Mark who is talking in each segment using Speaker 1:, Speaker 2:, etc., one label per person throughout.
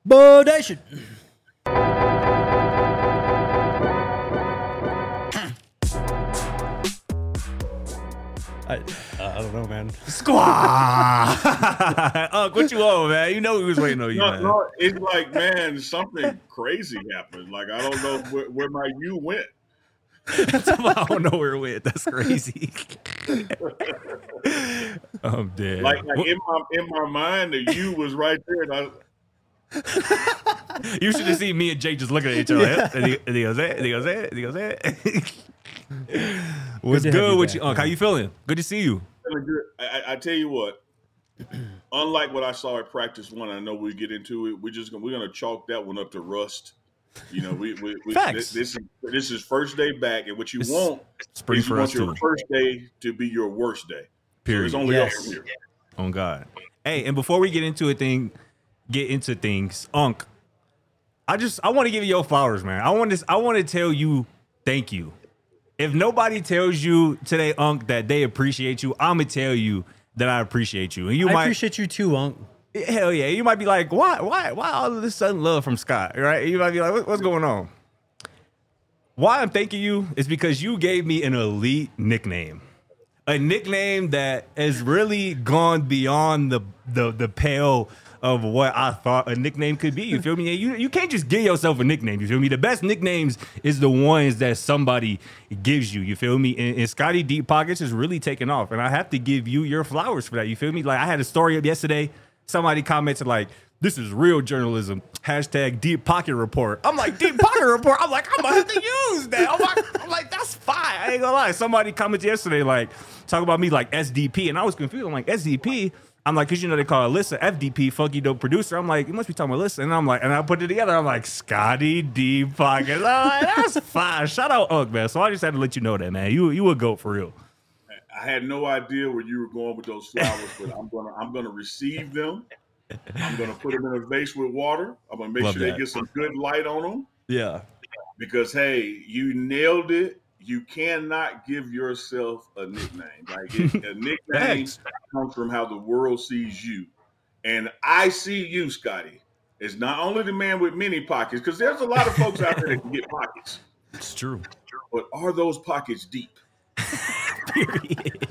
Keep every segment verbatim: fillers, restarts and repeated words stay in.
Speaker 1: Bodation. I, uh, I don't know, man.
Speaker 2: Squaw. Unc, what you on, man? You know we was waiting on you,
Speaker 3: No,
Speaker 2: man.
Speaker 3: no, it's like, man, something crazy happened. Like, I don't know where, where my you went.
Speaker 2: I don't know where it went. That's crazy. I'm dead.
Speaker 3: Like, like in my in my mind, the you was right there. And I,
Speaker 2: You should have seen me and Jay just looking at each other. Yeah. And he, and he goes, eh, and he goes, eh, and he goes, eh. What's
Speaker 1: Good
Speaker 2: good,
Speaker 1: to have you
Speaker 2: with
Speaker 1: back,
Speaker 2: you, Unc?
Speaker 1: man.
Speaker 2: How you feeling? Good to see you.
Speaker 3: I, I, I tell you what, unlike what I saw at practice one, I know we get into it. We're just gonna we're gonna chalk that one up to rust. You know, we, we, we
Speaker 2: Facts.
Speaker 3: this is this is first day back, and what you
Speaker 2: It's
Speaker 3: want
Speaker 2: spring
Speaker 3: is you
Speaker 2: for
Speaker 3: want
Speaker 2: us
Speaker 3: your
Speaker 2: too.
Speaker 3: first day to be your worst day.
Speaker 2: Period.
Speaker 3: So it's only
Speaker 1: Yes.
Speaker 3: up from here.
Speaker 2: On God. Hey, and before we get into a thing, get into things, Unc, I just I want to give you your flowers, man. I want this. I want to tell you thank you. If nobody tells you today, Unc, that they appreciate you, I'm gonna tell you that I appreciate you. And you
Speaker 1: I
Speaker 2: might
Speaker 1: appreciate you too, Unc.
Speaker 2: hell yeah, you might be like, why, why, why all of this sudden love from Scott, right? You might be like, what, what's going on? Why I'm thanking you is because you gave me an elite nickname. A nickname that has really gone beyond the the the pale of what I thought a nickname could be. You feel me? You you can't just give yourself a nickname. You feel me? The best nicknames is the ones that somebody gives you. You feel me? And, and Scotty Deep Pockets is really taking off, and I have to give you your flowers for that. You feel me? Like I had a story up yesterday. Somebody commented like, "This is real journalism." Hashtag Deep Pocket Report. I'm like, Deep Pocket Report. I'm like, I'm gonna have to use that. I'm like, I'm like, that's fine. I ain't gonna lie. Somebody commented yesterday like, talk about me like S D P, and I was confused. I'm like, S D P. I'm like, cause you know they call Alyssa F D P, Funky Dope Producer. I'm like, you must be talking about Alyssa. And I'm like, and I put it together. I'm like, Scotty Deep Pockets. I'm like, that's fine. Shout out Unc, man. So I just had to let you know that, man. You you a goat for real.
Speaker 3: I had no idea where you were going with those flowers, but I'm gonna I'm gonna receive them. I'm gonna put them in a vase with water. I'm gonna make
Speaker 2: Love
Speaker 3: sure
Speaker 2: that.
Speaker 3: they get some good light on them.
Speaker 2: Yeah.
Speaker 3: Because hey, you nailed it. You cannot give yourself a nickname. Like it, a nickname
Speaker 2: Thanks.
Speaker 3: comes from how the world sees you, and I see you, Scotty, as not only the man with many pockets, because there's a lot of folks out there that can get pockets,
Speaker 2: It's true.
Speaker 3: but are those pockets deep?
Speaker 2: Period.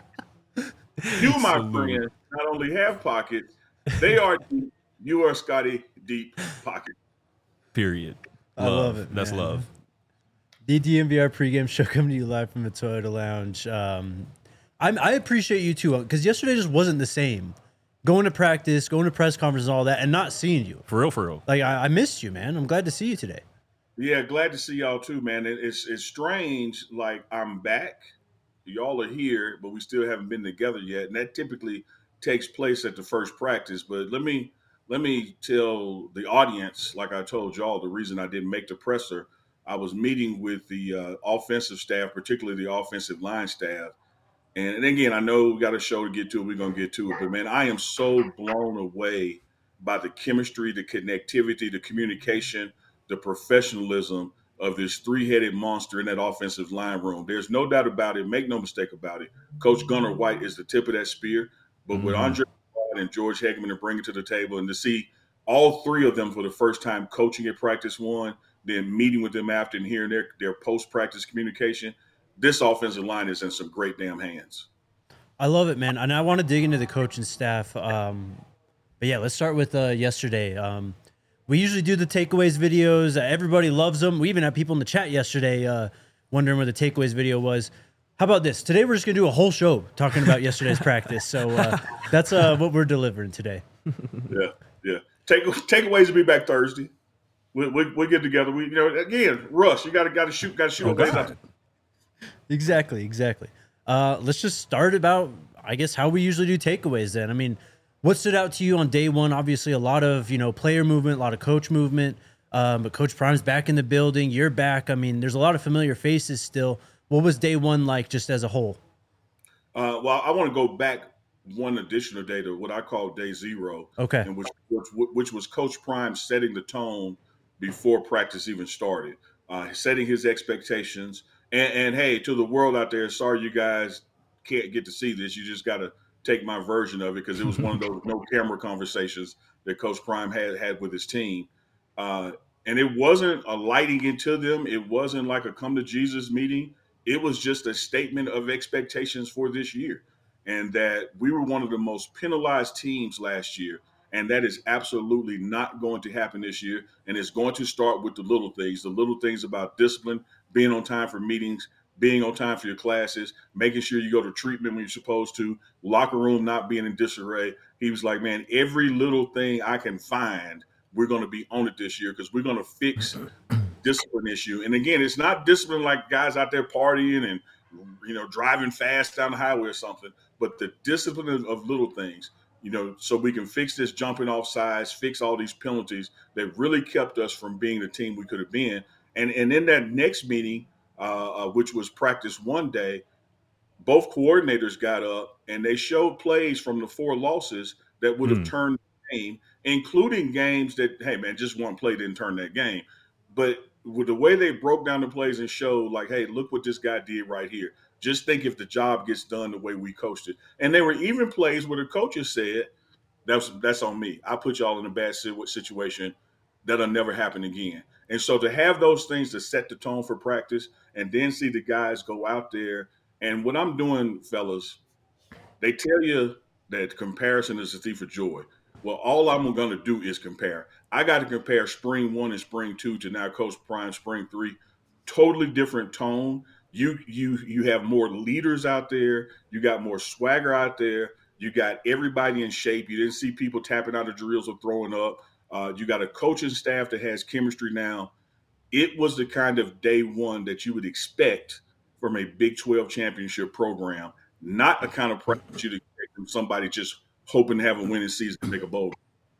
Speaker 3: You, my
Speaker 2: Salute.
Speaker 3: friend, not only have pockets, they are deep. You are Scotty Deep Pocket.
Speaker 2: Period.
Speaker 1: I love it,
Speaker 2: That's
Speaker 1: man.
Speaker 2: love.
Speaker 1: The D M V R pregame show coming to you live from the Toyota Lounge. Um, I'm, I appreciate you too, because yesterday just wasn't the same. Going to practice, going to press conferences, and all that, and not seeing you.
Speaker 2: For real, for real.
Speaker 1: Like I, I missed you, man. I'm glad to see you today.
Speaker 3: Yeah, glad to see y'all too, man. It, it's it's strange. Like I'm back, y'all are here, but we still haven't been together yet, and that typically takes place at the first practice. But let me let me tell the audience, like I told y'all, the reason I didn't make the presser. I was meeting with the uh, offensive staff, particularly the offensive line staff. And, and again, I know we got a show to get to. We're going to get to it. But, man, I am so blown away by the chemistry, the connectivity, the communication, the professionalism of this three-headed monster in that offensive line room. There's no doubt about it. Make no mistake about it. Coach Gunnar White is the tip of that spear. But
Speaker 2: Mm-hmm.
Speaker 3: with Andre and George Heckman to bring it to the table and to see all three of them for the first time coaching at practice one, then meeting with them after and hearing their, their post-practice communication, this offensive line is in some great damn hands.
Speaker 1: I love it, man. And I want to dig into the coaching staff. Um, but yeah, let's start with uh, yesterday. Um, we usually do the takeaways videos. Uh, everybody loves them. We even had people in the chat yesterday uh, wondering where the takeaways video was. How about this? Today we're just going to do a whole show talking about yesterday's practice. So uh, that's uh, what we're delivering today.
Speaker 3: Yeah, yeah. Take takeaways will be back Thursday. We we we get together. We you know again, Russ, you got to got to shoot, got to shoot.
Speaker 2: Oh,
Speaker 3: Okay,
Speaker 2: God.
Speaker 1: Exactly, exactly. Uh, let's just start about, I guess, how we usually do takeaways then. I mean, what stood out to you on day one? Obviously, a lot of, you know, player movement, a lot of coach movement. Um, but Coach Prime's back in the building. You're back. I mean, there's a lot of familiar faces still. What was day one like just as a whole?
Speaker 3: Uh, well, I want to go back one additional day to what I call day zero.
Speaker 1: Okay.
Speaker 3: And which, which which was Coach Prime setting the tone before practice even started, uh, setting his expectations. And, and hey, to the world out there, sorry you guys can't get to see this. You just got to take my version of it because it was one of those no camera conversations that Coach Prime had had with his team. Uh, and it wasn't a lighting into them. It wasn't like a come to Jesus meeting. It was just a statement of expectations for this year, and that we were one of the most penalized teams last year. And that is absolutely not going to happen this year. And it's going to start with the little things, the little things about discipline, being on time for meetings, being on time for your classes, making sure you go to treatment when you're supposed to, locker room not being in disarray. He was like, man, every little thing I can find, we're going to be on it this year because we're going to fix discipline issue. And again, it's not discipline like guys out there partying and, you know, driving fast down the highway or something, but the discipline of, of little things, you know, so we can fix this jumping off sides, fix all these penalties that really kept us from being the team we could have been. And and in that next meeting, uh, uh, which was practice one day, both coordinators got up and they showed plays from the four losses that would have
Speaker 2: Mm.
Speaker 3: turned the game, including games that, hey, man, just one play didn't turn that game. But with the way they broke down the plays and showed, like, hey, look what this guy did right here. Just think if the job gets done the way we coached it. And there were even plays where the coaches said, that's that's on me. I put y'all in a bad situation. That'll never happen again. And so to have those things to set the tone for practice and then see the guys go out there. And what I'm doing, fellas, they tell you that comparison is the thief of joy. Well, all I'm going to do is compare. I got to compare spring one and spring two to now Coach Prime spring three. Totally different tone. You you you have more leaders out there. You got more swagger out there. You got everybody in shape. You didn't see people tapping out of drills or throwing up. Uh, you got a coaching staff that has chemistry now. It was the kind of day one that you would expect from a Big twelve championship program, not the kind of practice you'd expect from somebody just hoping to have a winning season and make a bowl.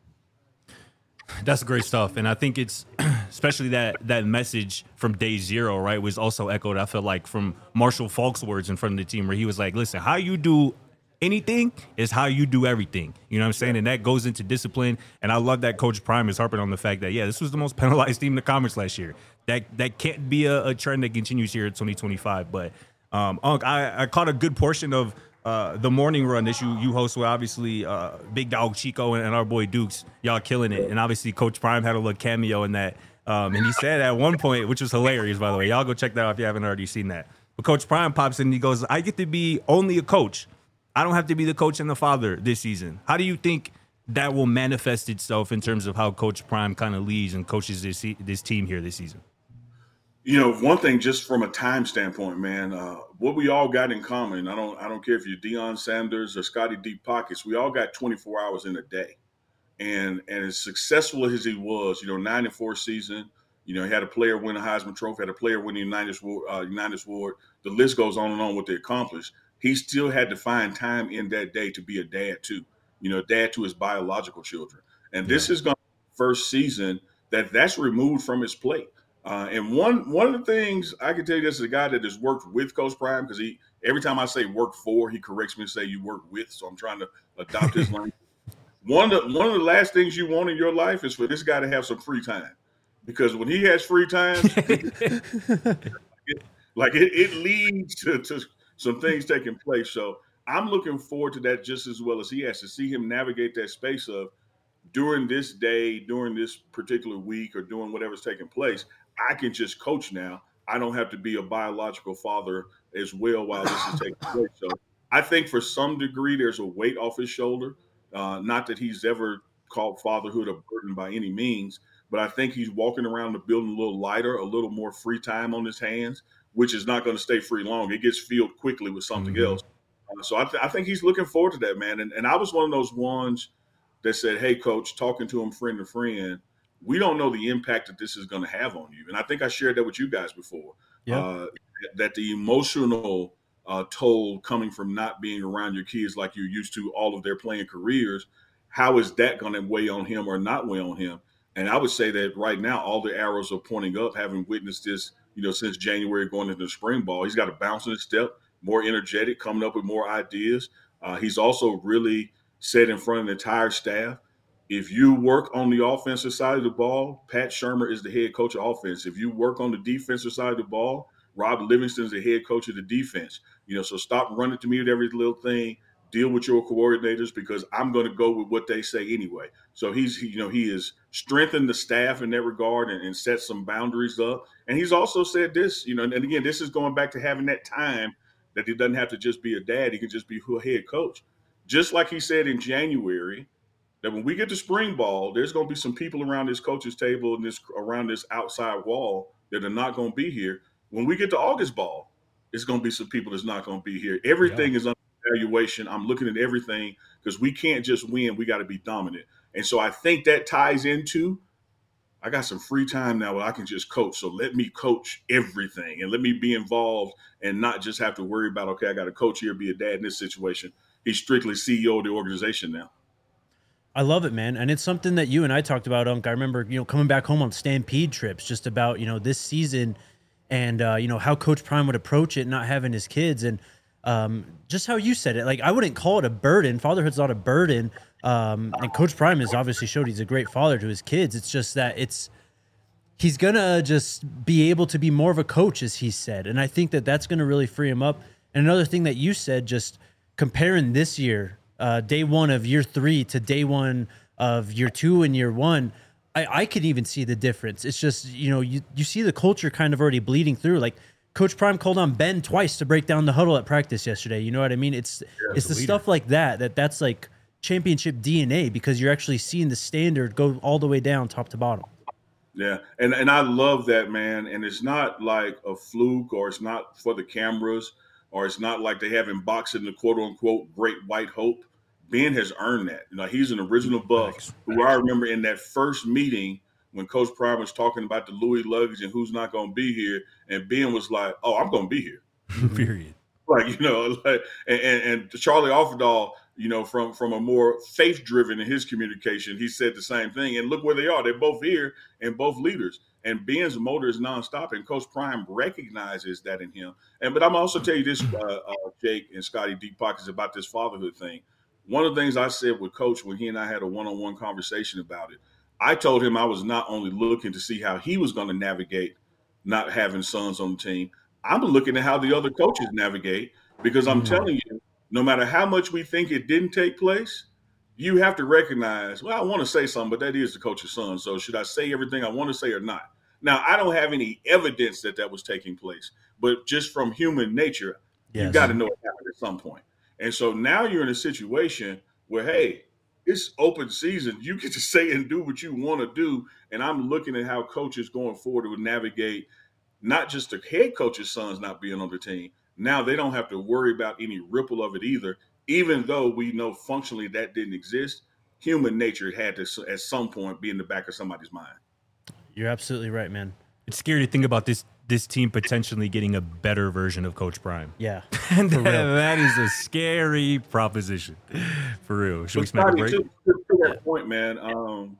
Speaker 2: That's great stuff. And I think it's especially that that message from day zero, right, was also echoed, I feel like, from Marshall Faulk's words in front of the team where he was like, listen, how you do anything is how you do everything. You know what I'm saying? And that goes into discipline. And I love that Coach Prime is harping on the fact that, yeah, this was the most penalized team in the conference last year. That that can't be a, a trend that continues here in twenty twenty-five. But, um, Unc, I, I caught a good portion of uh, the morning run that you, you host with, obviously, uh, Big Dog Chico and, and our boy Dukes. Y'all killing it. And obviously, Coach Prime had a little cameo in that. Um, and he said at one point, which was hilarious, by the way. Y'all go check that out if you haven't already seen that. But Coach Prime pops in and he goes, I get to be only a coach. I don't have to be the coach and the father this season. How do you think that will manifest itself in terms of how Coach Prime kind of leads and coaches this this team here this season?
Speaker 3: You know, one thing just from a time standpoint, man, uh, what we all got in common, I don't I don't care if you're Deion Sanders or Scotty Deep Pockets, we all got twenty-four hours in a day. And and as successful as he was, you know, nine and four season, you know, he had a player win a Heisman Trophy, had a player win the Unitas Award, uh, Unitas Award. The list goes on and on what they accomplished. He still had to find time in that day to be a dad too, you know, dad to his biological children. And this yeah. is going to be the first season that that's removed from his plate. Uh, and one one of the things I can tell you, this is a guy that has worked with Coach Prime, because he every time I say work for, he corrects me and say you work with. So I'm trying to adopt his language. One of the, one of the last things you want in your life is for this guy to have some free time, because when he has free time, it, like it, it leads to, to some things taking place. So I'm looking forward to that just as well as he has, to see him navigate that space of during this day, during this particular week, or during whatever's taking place, I can just coach now. I don't have to be a biological father as well while this is taking place. So I think for some degree, there's a weight off his shoulder. Uh, not that he's ever called fatherhood a burden by any means, but I think he's walking around the building a little lighter, a little more free time on his hands, which is not going to stay free long. It gets filled quickly with something mm-hmm. else. Uh, so I, th- I think he's looking forward to that, man. And, and I was one of those ones that said, hey, coach, talking to him friend to friend, we don't know the impact that this is going to have on you. And I think I shared that with you guys before, yeah. uh, that the emotional uh, toll coming from not being around your kids like you're used to all of their playing careers, how is that going to weigh on him or not weigh on him? And I would say that right now, all the arrows are pointing up, having witnessed this, you know, since January going into the spring ball. He's got a bounce in his step, more energetic, coming up with more ideas. Uh, he's also really said in front of the entire staff, if you work on the offensive side of the ball, Pat Shurmur is the head coach of offense. If you work on the defensive side of the ball, Rob Livingston is the head coach of the defense. You know, so stop running to me with every little thing. deal with your coordinators because I'm going to go with what they say anyway. So he's, he, you know, he has strengthened the staff in that regard and, and set some boundaries up. And he's also said this, you know, and again, this is going back to having that time that he doesn't have to just be a dad. He can just be a head coach. Just like he said in January, that when we get to spring ball, there's going to be some people around this coach's table and this around this outside wall that are not going to be here. When we get to August ball, it's going to be some people that's not going to be here. Everything yeah. is under evaluation. I'm looking at everything because we can't just win. We got to be dominant. And so I think that ties into, I got some free time now where I can just coach. So let me coach everything and let me be involved and not just have to worry about, okay, I got to coach here, be a dad in this situation. He's strictly C E O of the organization now.
Speaker 1: I love it, man. And it's something that you and I talked about, Unc. I remember, you know, coming back home on Stampede trips just about, you know, this season and, uh, you know, how Coach Prime would approach it, not having his kids. And um, just how you said it, like, I wouldn't call it a burden. Fatherhood's not a burden. Um, and Coach Prime has obviously showed he's a great father to his kids. It's just that it's, he's going to just be able to be more of a coach, as he said. And I think that that's going to really free him up. And another thing that you said, just comparing this year, uh, day one of year three to day one of year two and year one, I, I could even see the difference. It's just, you know, you, you see the culture kind of already bleeding through. Like Coach Prime called on Ben twice to break down the huddle at practice yesterday. You know what I mean? It's, yeah, it's the leader. Stuff like that, that that's like championship D N A because you're actually seeing the standard go all the way down top to bottom.
Speaker 3: Yeah, and, and I love that, man. And it's not like a fluke or it's not for the cameras or it's not like they have him boxing the quote-unquote great white hope. Ben has earned that. You know, he's an original Buff Thanks. Who I remember in that first meeting when Coach Prime was talking about the Louis luggage and who's not going to be here, and Ben was like, oh, I'm going to be here.
Speaker 2: Period.
Speaker 3: Like, you know, like, and, and, and Charlie Offerdahl, you know, from, from a more faith-driven in his communication, he said the same thing. And look where they are. They're both here and both leaders. And Ben's motor is nonstop, and Coach Prime recognizes that in him. And but I'm also tell you this, uh, uh, Jake and Scotty Deep Pockets, about this fatherhood thing. One of the things I said with Coach when he and I had a one-on-one conversation about it, I told him I was not only looking to see how he was going to navigate not having sons on the team, I'm looking at how the other coaches navigate, because I'm mm-hmm. telling you, no matter how much we think it didn't take place, you have to recognize, well, I want to say something, but that is the coach's son. So should I say everything I want to say or not? Now, I don't have any evidence that that was taking place, but just from human nature, yes. you got to know it happened at some point. And so now you're in a situation where, hey, it's open season. You get to say and do what you want to do. And I'm looking at how coaches going forward would navigate not just the head coach's sons not being on the team. Now they don't have to worry about any ripple of it either, even though we know functionally that didn't exist. Human nature had to, at some point, be in the back of somebody's mind.
Speaker 1: You're absolutely right, man.
Speaker 2: It's scary to think about this this team potentially getting a better version of Coach Prime.
Speaker 1: Yeah.
Speaker 2: And that, that is a scary proposition. For real. Should but we smack a break?
Speaker 3: To, to that point, man, um,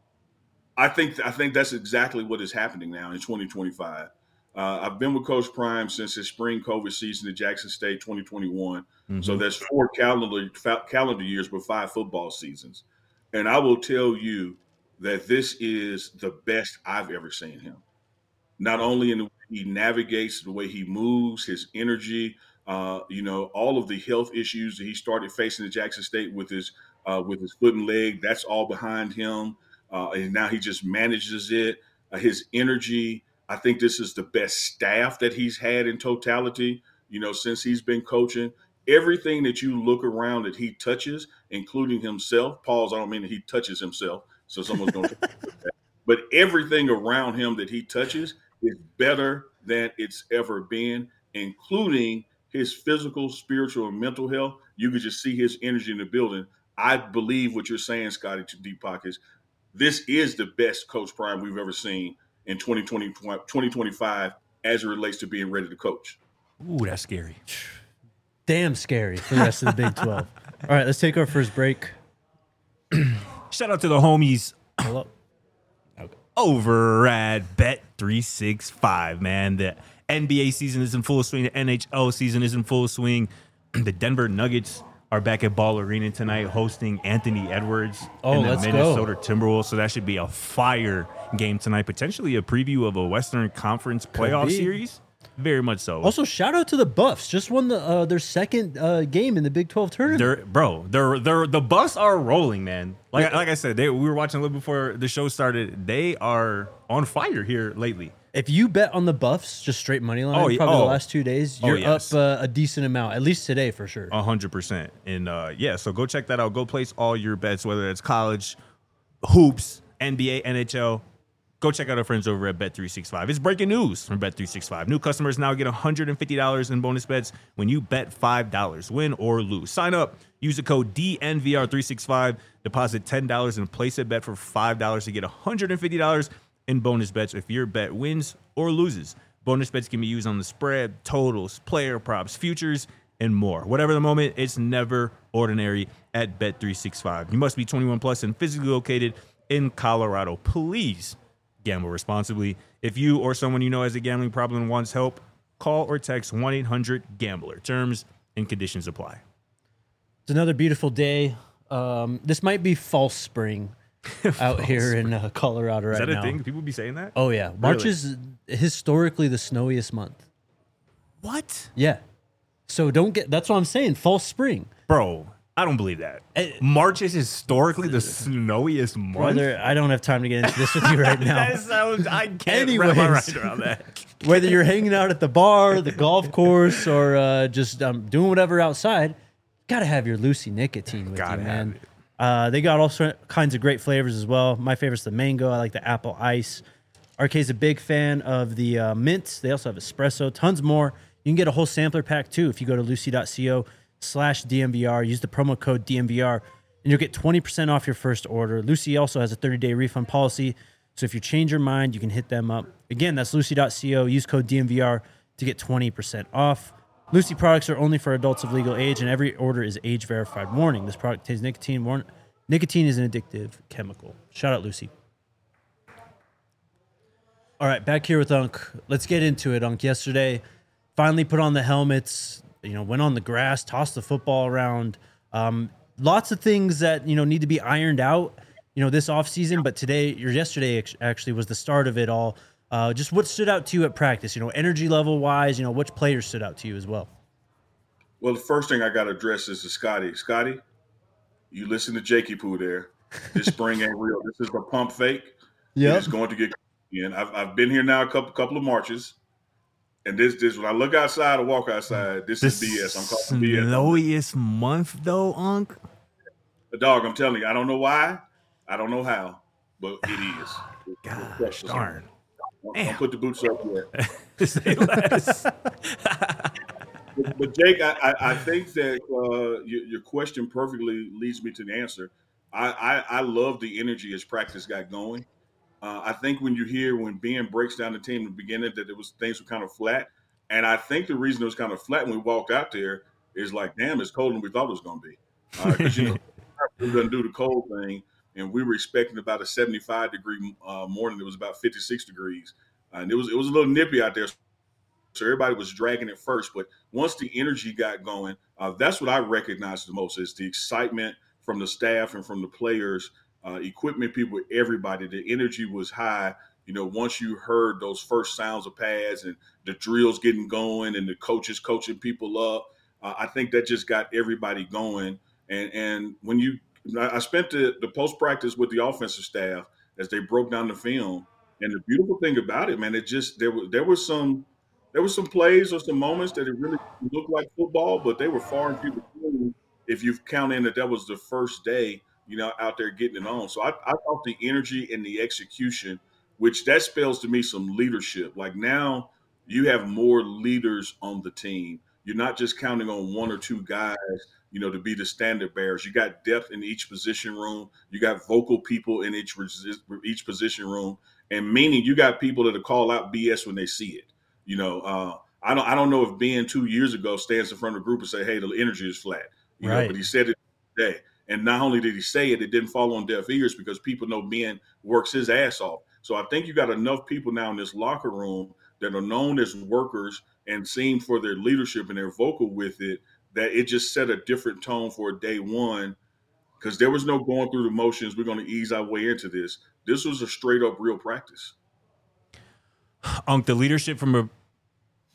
Speaker 3: I think I think that's exactly what is happening now in twenty twenty-five. Uh, I've been with Coach Prime since his spring COVID season at Jackson State twenty twenty-one. Mm-hmm. So that's four calendar calendar years with five football seasons. And I will tell you that this is the best I've ever seen him. Not only in the way he navigates, the way he moves, his energy, uh, you know, all of the health issues that he started facing at Jackson State with his uh, with his foot and leg, that's all behind him. Uh, and now he just manages it. Uh, his energy. I think this is the best staff that he's had in totality, you know, since he's been coaching. Everything that you look around that he touches, including himself, pause, I don't mean that he touches himself, so someone's going to that. But everything around him that he touches is better than it's ever been, including his physical, spiritual, and mental health. You could just see his energy in the building. I believe what you're saying, Scotty, to Deep Pockets. This is the best Coach Prime we've ever seen in twenty twenty, twenty twenty-five as it relates to being ready to coach.
Speaker 2: Ooh, that's scary.
Speaker 1: Damn scary for the rest of the Big twelve. All right, let's take our first break.
Speaker 2: Shout out to the homies
Speaker 1: Hello.
Speaker 2: Okay. over at Bet three sixty-five, man. The N B A season is in full swing. The N H L season is in full swing. The Denver Nuggets are back at Ball Arena tonight hosting Anthony Edwards
Speaker 1: oh,
Speaker 2: and the
Speaker 1: let's
Speaker 2: Minnesota
Speaker 1: go.
Speaker 2: Timberwolves. So that should be a fire game tonight. Potentially a preview of a Western Conference playoff series. Very much so.
Speaker 1: Also, shout out to the Buffs. Just won the uh, their second uh, game in the Big twelve tournament.
Speaker 2: They're, bro, they're, they're, the Buffs are rolling, man. Like like I said, they, we were watching a little before the show started. They are on fire here lately.
Speaker 1: If you bet on the Buffs, just straight money line,
Speaker 2: Oh, yeah.
Speaker 1: probably
Speaker 2: Oh.
Speaker 1: the last two days,
Speaker 2: Oh,
Speaker 1: you're
Speaker 2: yes.
Speaker 1: up uh, a decent amount, at least today for sure.
Speaker 2: A hundred percent. And uh, yeah, so go check that out. Go place all your bets, whether it's college, hoops, N B A, N H L. Go check out our friends over at Bet three sixty-five. It's breaking news from Bet three sixty-five. New customers now get one hundred fifty dollars in bonus bets when you bet five dollars, win or lose. Sign up, use the code D N V R three sixty-five, deposit ten dollars and place a bet for five dollars to get one hundred fifty dollars in bonus bets if your bet wins or loses. Bonus bets can be used on the spread, totals, player props, futures, and more. Whatever the moment, it's never ordinary at Bet three sixty-five. You must be twenty-one plus and physically located in Colorado. Please gamble responsibly. If you or someone you know has a gambling problem and wants help, call or text one eight hundred gambler. Terms and conditions apply.
Speaker 1: It's another beautiful day. Um, this might be false spring out here in uh, Colorado right
Speaker 2: Is that
Speaker 1: now.
Speaker 2: a thing? People be saying that?
Speaker 1: Oh, yeah. March
Speaker 2: Really?
Speaker 1: is historically the snowiest month.
Speaker 2: What?
Speaker 1: Yeah. So don't get, that's what I'm saying, false spring.
Speaker 2: Bro, I don't believe that.
Speaker 1: Eh,
Speaker 2: March is historically the snowiest month.
Speaker 1: Brother, I don't have time to get into this with you right now.
Speaker 2: That sounds, I can't wrap my
Speaker 1: Anyways.
Speaker 2: mind around that.
Speaker 1: Whether you're hanging out at the bar, the golf course, or uh, just um, doing whatever outside, you gotta have your Lucy nicotine with
Speaker 2: Gotta
Speaker 1: you,
Speaker 2: have
Speaker 1: man.
Speaker 2: it.
Speaker 1: Uh, they got all sort kinds of great flavors as well. My favorite's the mango. I like the apple ice. R K's a big fan of the uh, mints. They also have espresso, tons more. You can get a whole sampler pack too if you go to lucy.co slash DMVR. Use the promo code D M V R and you'll get twenty percent off your first order. Lucy also has a thirty-day refund policy. So if you change your mind, you can hit them up. Again, that's lucy.co. Use code D M V R to get twenty percent off. Lucy products are only for adults of legal age, and every order is age verified. Warning: this product contains nicotine. Warn- nicotine is an addictive chemical. Shout out, Lucy. All right, back here with Unc. Let's get into it, Unc. Yesterday, finally put on the helmets. You know, went on the grass, tossed the football around. Um, lots of things that you know need to be ironed out. You know, this offseason, but today or yesterday act- actually was the start of it all. Uh, just what stood out to you at practice? You know, energy level wise. You know, which players stood out to you as well?
Speaker 3: Well, the first thing I got to address is to Scotty. Scotty, you listen to Jakey Poo there. This spring ain't real. This is a pump fake.
Speaker 1: Yeah.
Speaker 3: It's going to get in. I've, I've been here now a couple couple of marches. And this, this when I look outside or walk outside, this
Speaker 2: The
Speaker 3: is B S. I'm calling B S.
Speaker 2: snowiest month, though, Unc.
Speaker 3: The dog, I'm telling you, I don't know why. I don't know how, but it is.
Speaker 2: Gosh, darn.
Speaker 3: Don't,
Speaker 2: Damn.
Speaker 3: don't put the boots up yet.
Speaker 2: Say less.
Speaker 3: But, but Jake, I, I, I think that uh, your, your question perfectly leads me to the answer. I, I, I love the energy as practice got going. Uh, I think when you hear when Ben breaks down the team in the beginning that it was things were kind of flat, and I think the reason it was kind of flat when we walked out there is like, damn, it's colder than we thought it was going to be. Because you know we were going to do the cold thing, and we were expecting about a seventy-five degree uh, morning. It was about fifty-six degrees, uh, and it was it was a little nippy out there. So everybody was dragging it first, but once the energy got going, uh, that's what I recognized the most is the excitement from the staff and from the players, uh, equipment people, everybody. The energy was high. You know, once you heard those first sounds of pads and the drills getting going and the coaches coaching people up, uh, I think that just got everybody going. And and when you, I spent the, the post practice with the offensive staff as they broke down the film, and the beautiful thing about it, man, it just there was there was some. There were some plays or some moments that it really looked like football, but they were far and few between if you count in that that was the first day, you know, out there getting it on. So I, I thought the energy and the execution, which that spells to me some leadership. Like now you have more leaders on the team. You're not just counting on one or two guys, you know, to be the standard bearers. You got depth in each position room. You got vocal people in each each position room, and meaning you got people that call out B S when they see it. You know, uh, I don't I don't know if Ben two years ago stands in front of a group and say, hey, the energy is flat. You
Speaker 1: Right.
Speaker 3: know, but he said it today. And not only did he say it, it didn't fall on deaf ears because people know Ben works his ass off. So I think you got enough people now in this locker room that are known as workers and seen for their leadership and their vocal with it, that it just set a different tone for day one because there was no going through the motions. We're going to ease our way into this. This was a straight up real practice.
Speaker 2: Unc, the leadership from a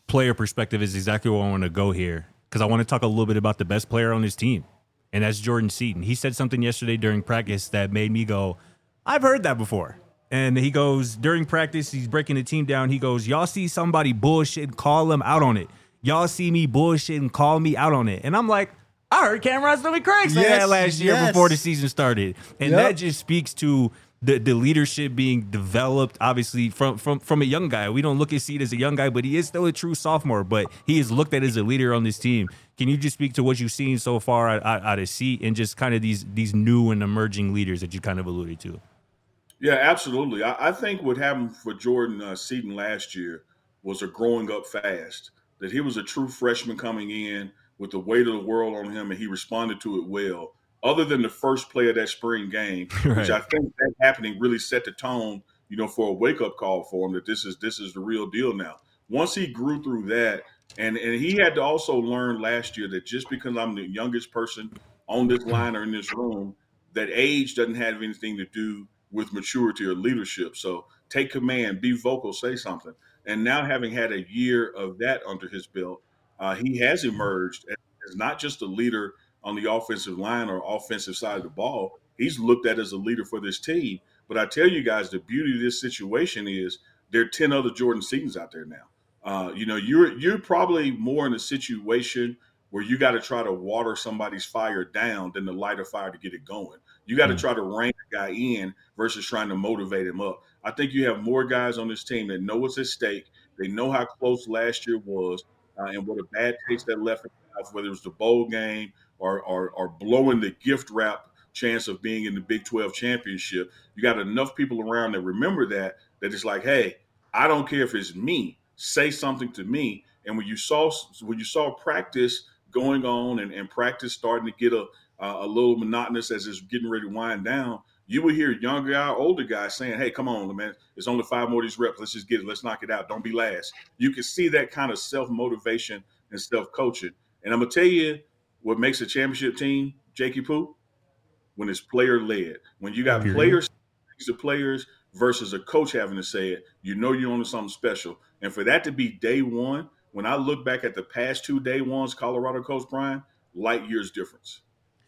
Speaker 2: player perspective is exactly where I want to go here, because I want to talk a little bit about the best player on his team, and that's Jordan Seaton. He said something yesterday during practice that made me go, I've heard that before. And he goes, during practice, he's breaking the team down. He goes, y'all see somebody bullshit, call him out on it. Y'all see me bullshit and call me out on it. And I'm like, I heard Cameron Stomach Craig say
Speaker 1: Yes,
Speaker 2: that last year
Speaker 1: yes.
Speaker 2: before the season started. And
Speaker 1: Yep.
Speaker 2: that just speaks to the, the leadership being developed, obviously, from, from, from a young guy. We don't look at Seed as a young guy, but he is still a true sophomore. But he is looked at as a leader on this team. Can you just speak to what you've seen so far out, out, out of Seed and just kind of these, these new and emerging leaders that you kind of alluded to?
Speaker 3: Yeah, absolutely. I, I think what happened for Jordan uh, Seaton last year was a growing up fast. That he was a true freshman coming in with the weight of the world on him, and he responded to it well. Other than the first play of that spring game,
Speaker 2: Right.
Speaker 3: which I think that happening really set the tone, you know, for a wake up call for him that this is this is the real deal now. Once he grew through that, and and he had to also learn last year that just because I'm the youngest person on this line or in this room, that age doesn't have anything to do with maturity or leadership. So take command, be vocal, say something. And now having had a year of that under his belt, uh, he has emerged as not just a leader on the offensive line or offensive side of the ball. He's looked at as a leader for this team. But I tell you guys, the beauty of this situation is there are ten other Jordan Seatons out there now. Uh, you know, you're you're probably more in a situation where you got to try to water somebody's fire down than to light a fire to get it going. You got to try to rein a guy in versus trying to motivate him up. I think you have more guys on this team that know what's at stake. They know how close last year was uh, and what a bad taste that left in their mouth, whether it was the bowl game or, or, or blowing the gift wrap chance of being in the Big twelve championship. You got enough people around that remember that, that it's like, hey, I don't care if it's me. Say something to me. And when you saw when you saw practice going on and, and practice starting to get a uh, a little monotonous as it's getting ready to wind down, you would hear younger guy, older guys saying, hey, come on, man, it's only five more of these reps. Let's just get it. Let's knock it out. Don't be last. You can see that kind of self-motivation and self-coaching. And I'm going to tell you what makes a championship team, Jakey Poo, when it's player-led. When you got
Speaker 2: Period.
Speaker 3: players, the players versus a coach having to say it, you know you're on to something special. And for that to be day one, when I look back at the past two day ones, Colorado Coach Brian, light years difference.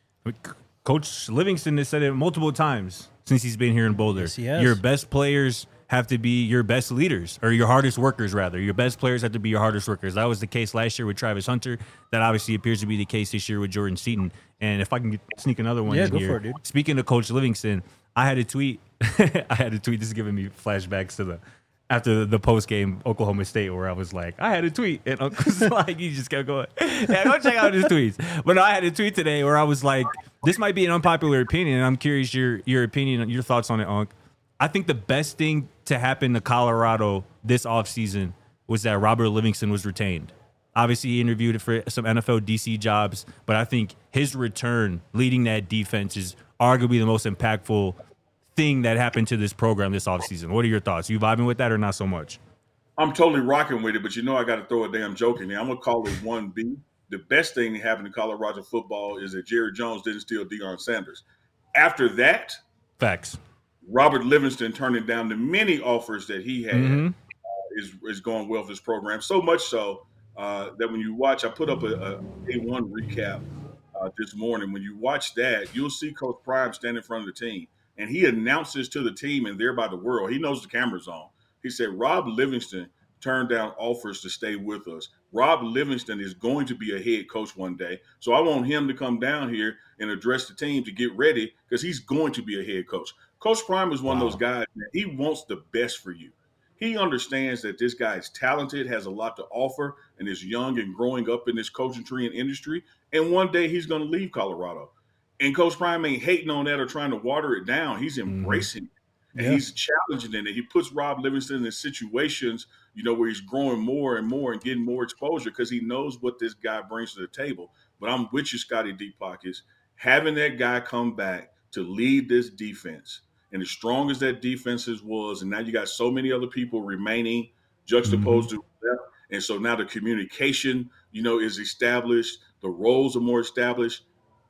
Speaker 2: Coach Livingston has said it multiple times since he's been here in Boulder.
Speaker 1: Yes, he has.
Speaker 2: Your best players have to be your best leaders, or your hardest workers, rather. Your best players have to be your hardest workers. That was the case last year with Travis Hunter. That obviously appears to be the case this year with Jordan Seaton. And if I can sneak another one
Speaker 1: Yeah,
Speaker 2: in
Speaker 1: go
Speaker 2: here.
Speaker 1: for it, dude.
Speaker 2: Speaking of Coach Livingston, I had a tweet. I had a tweet. This is giving me flashbacks to the after the post game Oklahoma State, where I was like, I had a tweet, and Uncle's like, you just kept going. Yeah, go check out his tweets. But no, I had a tweet today where I was like, this might be an unpopular opinion, and I'm curious your your opinion, your thoughts on it, Unc. I think the best thing to happen to Colorado this offseason was that Robert Livingston was retained. Obviously, he interviewed for some N F L D C jobs, but I think his return leading that defense is arguably the most impactful thing that happened to this program this offseason. What are your thoughts? You vibing with that or not so much?
Speaker 3: I'm totally rocking with it, but you know I got to throw a damn joke in there. I'm going to call it one B. The best thing that happened to Colorado football is that Jerry Jones didn't steal Deion Sanders. After that,
Speaker 2: Facts.
Speaker 3: Robert Livingston turning down the many offers that he had
Speaker 2: Mm-hmm.
Speaker 3: uh, is, is going well for this program. So much so uh, that when you watch, I put up a, a day one recap uh, this morning. When you watch that, you'll see Coach Prime stand in front of the team. And he announces to the team and thereby the world, he knows the camera's on. He said, Rob Livingston turned down offers to stay with us. Rob Livingston is going to be a head coach one day. So I want him to come down here and address the team to get ready because he's going to be a head coach. Coach Prime is one
Speaker 2: Wow.
Speaker 3: of those guys, man, he wants the best for you. He understands that this guy is talented, has a lot to offer, and is young and growing up in this coaching tree and industry. And one day he's going to leave Colorado. And Coach Prime ain't hating on that or trying to water it down. He's embracing it. And
Speaker 1: Yeah.
Speaker 3: he's challenging it. And he puts Rob Livingston in situations, you know, where he's growing more and more and getting more exposure because he knows what this guy brings to the table. But I'm with you, Scotty Deep Pockets. Having that guy come back to lead this defense, and as strong as that defense is was, and now you got so many other people remaining juxtaposed to left. And so now the communication, you know, is established. The roles are more established.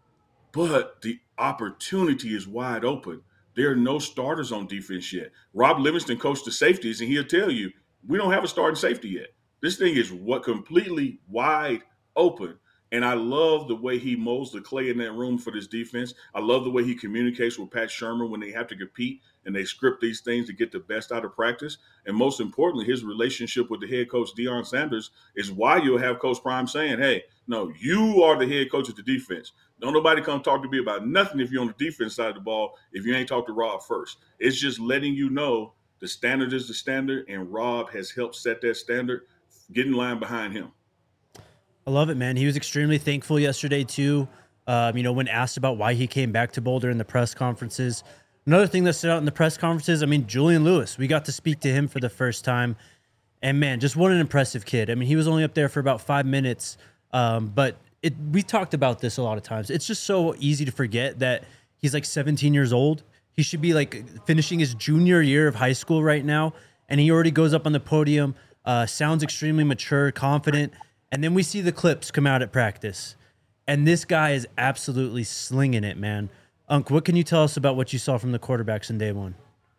Speaker 3: But the opportunity is wide open. There are no starters on defense yet. Rob Livingston coached the safeties, and he'll tell you, we don't have a starting safety yet. This thing is what completely wide open. And I love the way he molds the clay in that room for this defense. I love the way he communicates with Pat Shermer when they have to compete and they script these things to get the best out of practice. And most importantly, his relationship with the head coach, Deion Sanders, is why you'll have Coach Prime saying, hey, no, you are the head coach of the defense. Don't nobody come talk to me about nothing if you're on the defense side of the ball if you ain't talked to Rob first. It's just letting you know the standard is the standard, and Rob has helped set that standard. Get in line behind him.
Speaker 1: I love it, man. He was extremely thankful yesterday, too. Um, you know, when asked about why he came back to Boulder in the press conferences. Another thing that stood out in the press conferences, I mean, Julian Lewis, we got to speak to him for the first time. And, man, just what an impressive kid. I mean, he was only up there for about five minutes. Um, but it, we talked about this a lot of times. It's just so easy to forget that he's like seventeen years old. He should be like finishing his junior year of high school right now. And he already goes up on the podium, uh, sounds extremely mature, confident. And then we see the clips come out at practice. And this guy is absolutely slinging it, man. Unc, what can you tell us about what you saw from the quarterbacks in day one?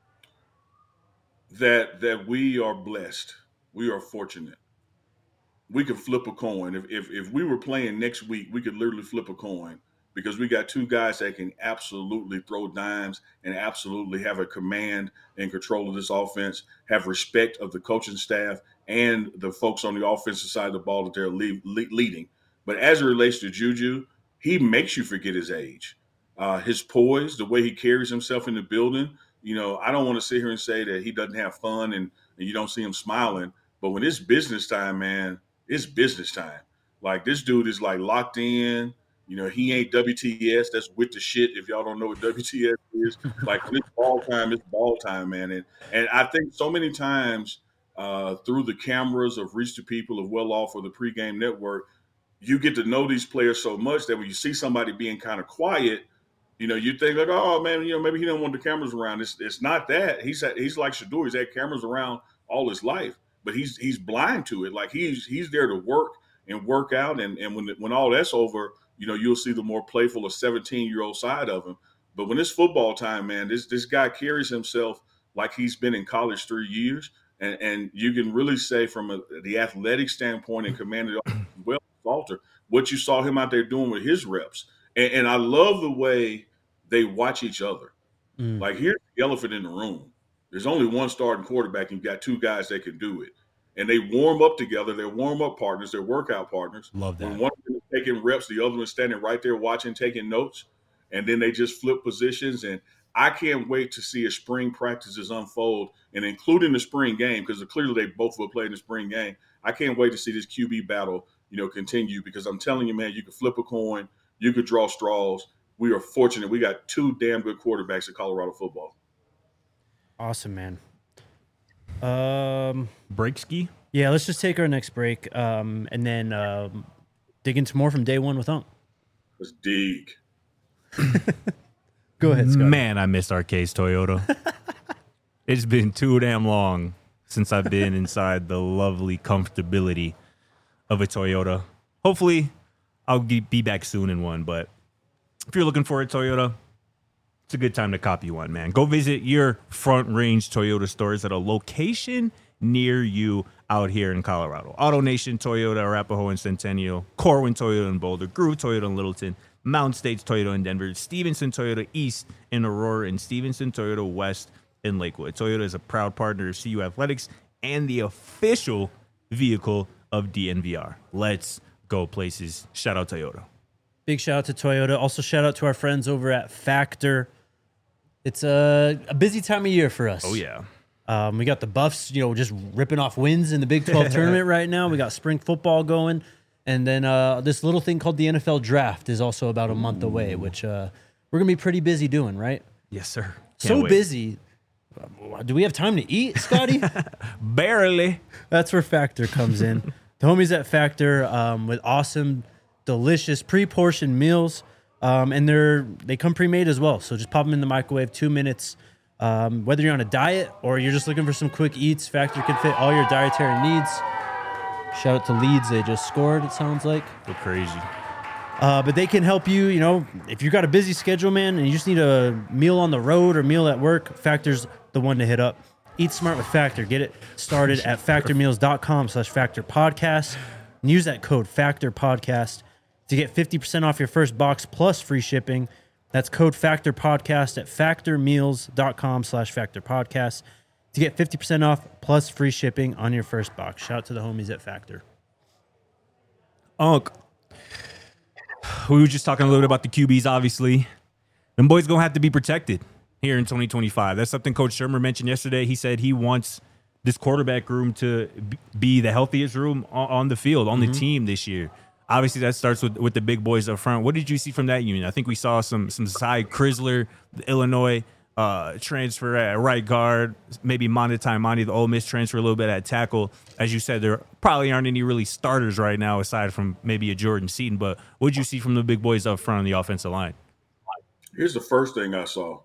Speaker 3: That that we are blessed. We are fortunate. We could flip a coin. If, if if we were playing next week, we could literally flip a coin because we got two guys that can absolutely throw dimes and absolutely have a command and control of this offense, have respect of the coaching staff and the folks on the offensive side of the ball that they're lead, leading. But as it relates to Juju, he makes you forget his age. Uh, his poise, the way he carries himself in the building. You know, I don't want to sit here and say that he doesn't have fun and, and you don't see him smiling. But when it's business time, man, it's business time. Like, this dude is, like, locked in. You know, he ain't W T S. That's with the shit. If y'all don't know what W T S is, like, when it's ball time, it's ball time, man. And, and I think so many times uh, through the cameras of Reach the People, of Well Off, or the Pregame Network, you get to know these players so much that when you see somebody being kind of quiet, you know, you think like, oh man, you know, maybe he don't want the cameras around. It's it's not that. He's had, he's like Shedeur. He's had cameras around all his life, but he's he's blind to it. Like he's he's there to work and work out, and and when when all that's over, you know, you'll see the more playful or seventeen year old side of him. But when it's football time, man, this this guy carries himself like he's been in college three years, and and you can really say from a, the athletic standpoint and commanded well, Salter, what you saw him out there doing with his reps, and, and I love the way they watch each other. Mm. Like, here's the elephant in the room. There's only one starting quarterback, and you've got two guys that can do it. And they warm up together. They're warm-up partners. They're workout partners.
Speaker 1: Love that.
Speaker 3: When one of them is taking reps, the other one's standing right there watching, taking notes. And then they just flip positions. And I can't wait to see as spring practices unfold, and including the spring game, because clearly they both will play in the spring game. I can't wait to see this Q B battle, you know, continue, because I'm telling you, man, you could flip a coin. You could draw straws. We are fortunate. We got two damn good quarterbacks in Colorado football.
Speaker 1: Awesome, man. Um,
Speaker 2: break ski.
Speaker 1: Yeah, let's just take our next break, um, and then um, dig into more from day one with Unc.
Speaker 3: Let's dig.
Speaker 1: Go ahead, Scott.
Speaker 2: Man, I miss Arcades Toyota. It's been too damn long since I've been inside the lovely comfortability of a Toyota. Hopefully, I'll be back soon in one, but if you're looking for a Toyota, it's a good time to copy one, man. Go visit your Front Range Toyota stores at a location near you out here in Colorado. Auto Nation Toyota, Arapahoe and Centennial, Corwin Toyota in Boulder, Groove Toyota in Littleton, Mountain States Toyota in Denver, Stevenson Toyota East in Aurora, and Stevenson Toyota West in Lakewood. Toyota is a proud partner of C U Athletics and the official vehicle of D N V R. Let's go places. Shout out Toyota.
Speaker 1: Big shout out to Toyota. Also, shout out to our friends over at Factor. It's a, a busy time of year for us.
Speaker 2: Oh, yeah.
Speaker 1: Um, we got the Buffs, you know, just ripping off wins in the Big twelve tournament right now. We got spring football going. And then uh, this little thing called the N F L Draft is also about a month away, which uh, we're going to be pretty busy doing, right?
Speaker 2: Yes, sir. Can't
Speaker 1: so
Speaker 2: wait.
Speaker 1: busy. Do we have time to eat, Scotty?
Speaker 2: Barely.
Speaker 1: That's where Factor comes in. The homies at Factor um, with awesome, delicious pre-portioned meals, um, and they're they come pre-made as well. So just pop them in the microwave, two minutes. Um, whether you're on a diet or you're just looking for some quick eats, Factor can fit all your dietary needs. Shout out to Leeds, they just scored. It sounds like
Speaker 2: Go crazy.
Speaker 1: Uh, but they can help you, you know, if you've got a busy schedule, man, and you just need a meal on the road or meal at work, Factor's the one to hit up. Eat smart with Factor. Get it started at factormeals.com slash factor podcast and use that code Factor Podcast to get fifty percent off your first box plus free shipping. That's code Factor Podcast at factormeals.com slash factor podcast to get fifty percent off plus free shipping on your first box. Shout out to the homies at Factor.
Speaker 2: Unc, we were just talking a little bit about the Q Bs, obviously. Them boys going to have to be protected here in twenty twenty-five. That's something Coach Shermer mentioned yesterday. He said he wants this quarterback room to be the healthiest room on the field, on mm-hmm. the team this year. Obviously, that starts with, with the big boys up front. What did you see from that unit? I think we saw some some Cy Crisler, the Illinois uh, transfer at right guard, maybe Monty Monty, the Ole Miss transfer a little bit at tackle. As you said, there probably aren't any really starters right now aside from maybe a Jordan Seaton. But what did you see from the big boys up front on the offensive line?
Speaker 3: Here's the first thing I saw.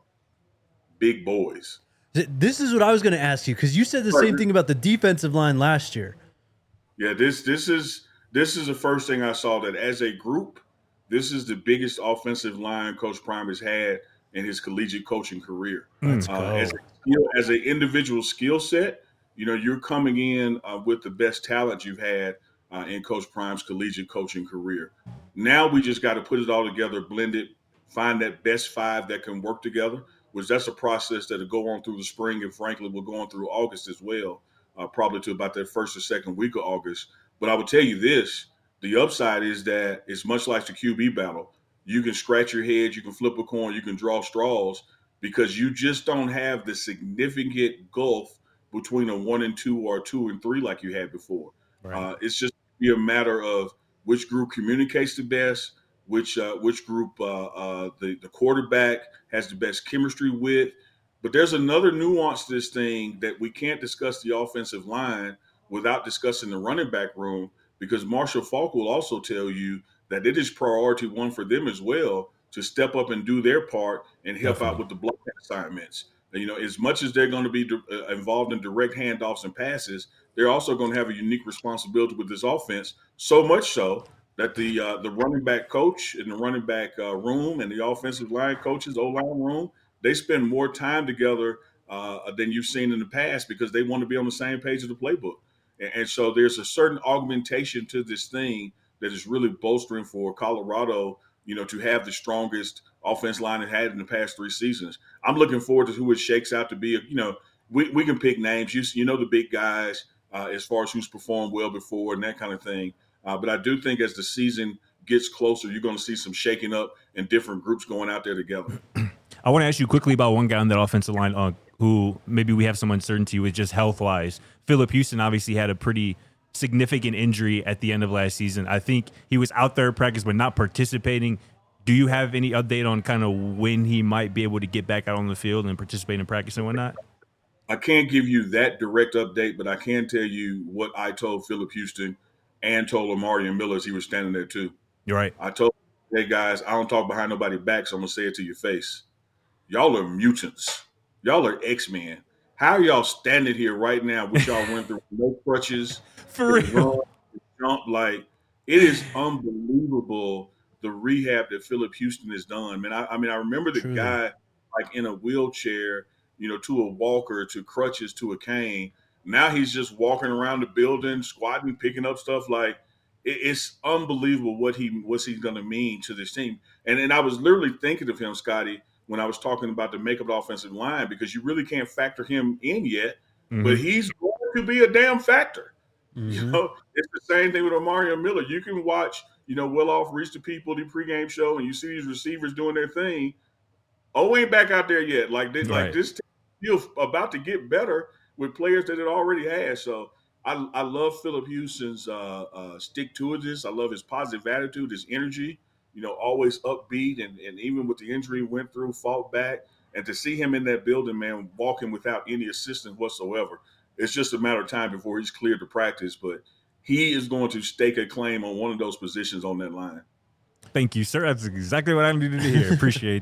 Speaker 3: Big boys.
Speaker 1: This is what I was going to ask you, because you said the same thing about the defensive line last year.
Speaker 3: Yeah, this this is this is the first thing I saw, that as a group, this is the biggest offensive line Coach Prime has had in his collegiate coaching career.
Speaker 1: Let's
Speaker 3: uh,
Speaker 1: go.
Speaker 3: As a skill, as an individual skill set, you know, you're coming in uh, with the best talent you've had uh, in Coach Prime's collegiate coaching career. Now we just got to put it all together, blend it, find that best five that can work together. Which that's a process that'll go on through the spring, and frankly will go on through August as well, uh, probably to about that first or second week of August. But I will tell you this, the upside is that it's much like the Q B battle. You can scratch your head, you can flip a coin, you can draw straws, because you just don't have the significant gulf between a one and two or a two and three like you had before. Right. Uh, it's just be a matter of which group communicates the best, which uh, which group uh, uh, the, the quarterback has the best chemistry with. But there's another nuance to this thing that we can't discuss the offensive line without discussing the running back room, because Marshall Faulk will also tell you that it is priority one for them as well to step up and do their part and help Definitely. out with the blocking assignments. You know, as much as they're going to be uh, involved in direct handoffs and passes, they're also going to have a unique responsibility with this offense, so much so that the uh, the running back coach in the running back uh, room and the offensive line coaches, O-line room, they spend more time together uh, than you've seen in the past, because they want to be on the same page of the playbook. And, and so there's a certain augmentation to this thing that is really bolstering for Colorado, you know, to have the strongest offense line it had in the past three seasons. I'm looking forward to who it shakes out to be. You know, we, we can pick names. You, you know the big guys uh, as far as who's performed well before and that kind of thing. Uh, but I do think as the season gets closer, you're going to see some shaking up and different groups going out there together.
Speaker 2: I want to ask you quickly about one guy on that offensive line uh, who maybe we have some uncertainty with just health-wise. Phillip Houston obviously had a pretty significant injury at the end of last season. I think he was out there at practice but not participating. Do you have any update on kind of when he might be able to get back out on the field and participate in practice and whatnot?
Speaker 3: I can't give you that direct update, but I can tell you what I told Phillip Houston and told Amarian Miller as he was standing there too.
Speaker 2: You're right.
Speaker 3: I told, hey guys, I don't talk behind nobody's back, so I'm gonna say it to your face. Y'all are mutants. Y'all are X-Men. How are y'all standing here right now, which y'all went through no crutches,
Speaker 2: for real,
Speaker 3: jump, like it is unbelievable the rehab that Phillip Houston has done. Man, I, I mean, I remember the Truly. guy like in a wheelchair, you know, to a walker, to crutches, to a cane. Now he's just walking around the building, squatting, picking up stuff. Like it, it's unbelievable what he what's he's going to mean to this team. And and I was literally thinking of him, Scotty, when I was talking about the makeup of the offensive line, because you really can't factor him in yet, mm-hmm. but he's going to be a damn factor. Mm-hmm. You know, it's the same thing with Amarian Miller. You can watch, you know, Will Off Reach the People, the pregame show, and you see these receivers doing their thing. Oh, ain't back out there yet. Like this, right. like this team is about to get better with players that it already has. So I, I love Phillip Houston's uh, uh, stick-to-itiveness. I love his positive attitude, his energy, you know, always upbeat. And, and even with the injury he went through, fought back. And to see him in that building, man, walking without any assistance whatsoever, it's just a matter of time before he's cleared to practice. But he is going to stake a claim on one of those positions on that line.
Speaker 2: Thank you, sir. That's exactly what I needed to hear. Appreciate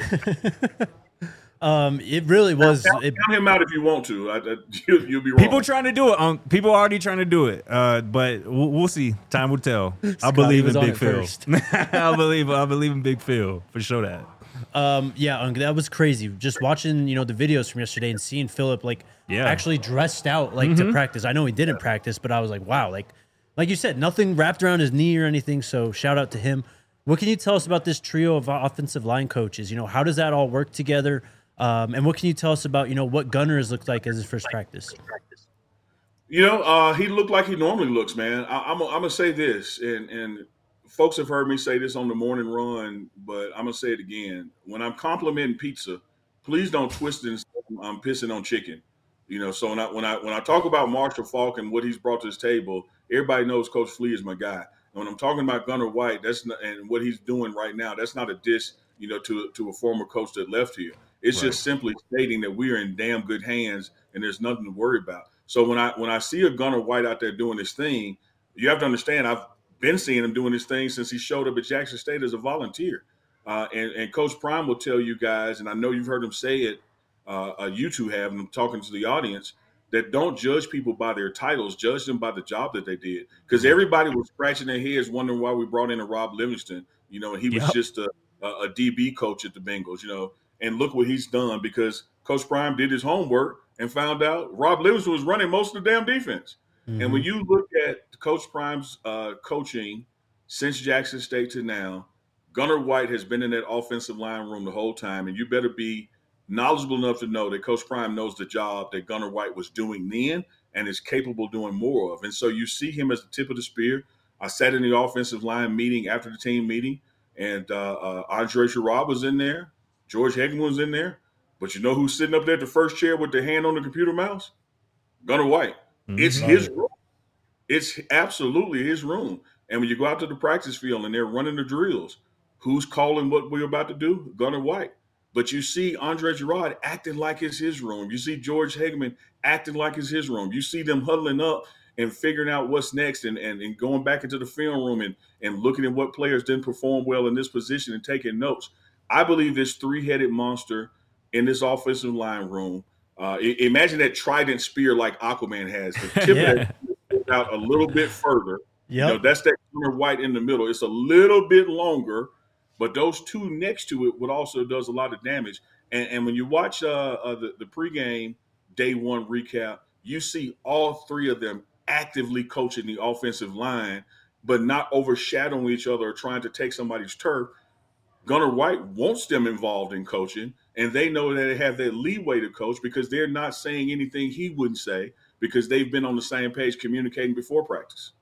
Speaker 2: that.
Speaker 1: Um, it really was.
Speaker 3: Count,
Speaker 1: it,
Speaker 3: count him out if you want to. I, I, you, you'll be wrong.
Speaker 2: People trying to do it. Um, people already trying to do it. Uh, but we'll, we'll see. Time will tell. I believe in Big Phil. I believe. I believe in Big Phil for sure. That.
Speaker 1: Um, yeah, Unc, that was crazy. Just watching, you know, the videos from yesterday and seeing Philip like
Speaker 2: Yeah.
Speaker 1: actually dressed out like
Speaker 2: Mm-hmm.
Speaker 1: to practice. I know he didn't practice, but I was like, wow, like like you said, nothing wrapped around his knee or anything. So shout out to him. What can you tell us about this trio of offensive line coaches? You know, how does that all work together? Um, and what can you tell us about, you know, what Gunner has looked like as his first practice?
Speaker 3: You know, uh, he looked like he normally looks, man. I, I'm, I'm gonna say this, and and folks have heard me say this on the morning run, but I'm gonna say it again. When I'm complimenting pizza, please don't twist it and say I'm pissing on chicken. You know, so when I when I when I talk about Marshall Faulk and what he's brought to this table, everybody knows Coach Flea is my guy. And when I'm talking about Gunner White, that's not, and what he's doing right now, that's not a diss, you know, to to a former coach that left here. It's
Speaker 2: Right.
Speaker 3: just simply stating that we are in damn good hands and there's nothing to worry about. So when I when I see a Gunner White out there doing his thing, you have to understand I've been seeing him doing his thing since he showed up at Jackson State as a volunteer. Uh, and, and Coach Prime will tell you guys, and I know you've heard him say it, uh, uh, you two have, and I'm talking to the audience, that don't judge people by their titles, judge them by the job that they did. Because everybody was scratching their heads wondering why we brought in a Rob Livingston. You know, he was
Speaker 2: Yep.
Speaker 3: just a, a, a D B coach at the Bengals, you know, and look what he's done because Coach Prime did his homework and found out Rob Livingston was running most of the damn defense.
Speaker 1: Mm-hmm.
Speaker 3: And when you look at Coach Prime's uh, coaching since Jackson State to now, Gunner White has been in that offensive line room the whole time, and you better be knowledgeable enough to know that Coach Prime knows the job that Gunner White was doing then and is capable of doing more of. And so you see him as the tip of the spear. I sat in the offensive line meeting after the team meeting, and uh, uh, Andre Sherrod was in there. George Hagan was in there. But you know who's sitting up there at the first chair with their hand on the computer mouse? Gunner White.
Speaker 2: Mhm.
Speaker 3: It's his room. It's absolutely his room. And when you go out to the practice field and they're running the drills, who's calling what we're about to do? Gunner White. But you see Andre Girard acting like it's his room. You see George Hageman acting like it's his room. You see them huddling up and figuring out what's next and, and, and going back into the film room and, and looking at what players didn't perform well in this position and taking notes. I believe this three-headed monster in this offensive line room, uh, I- imagine that trident spear like Aquaman has. The tip
Speaker 1: Yeah.
Speaker 3: of that goes out a little bit further. You know,
Speaker 1: Yep.
Speaker 3: that's that Gunner White in the middle. It's a little bit longer, but those two next to it would also does a lot of damage. And, and when you watch uh, uh, the, the pregame day one recap, you see all three of them actively coaching the offensive line, but not overshadowing each other or trying to take somebody's turf. Gunner White wants them involved in coaching, and they know that they have that leeway to coach because they're not saying anything he wouldn't say because they've been on the same page communicating before practice.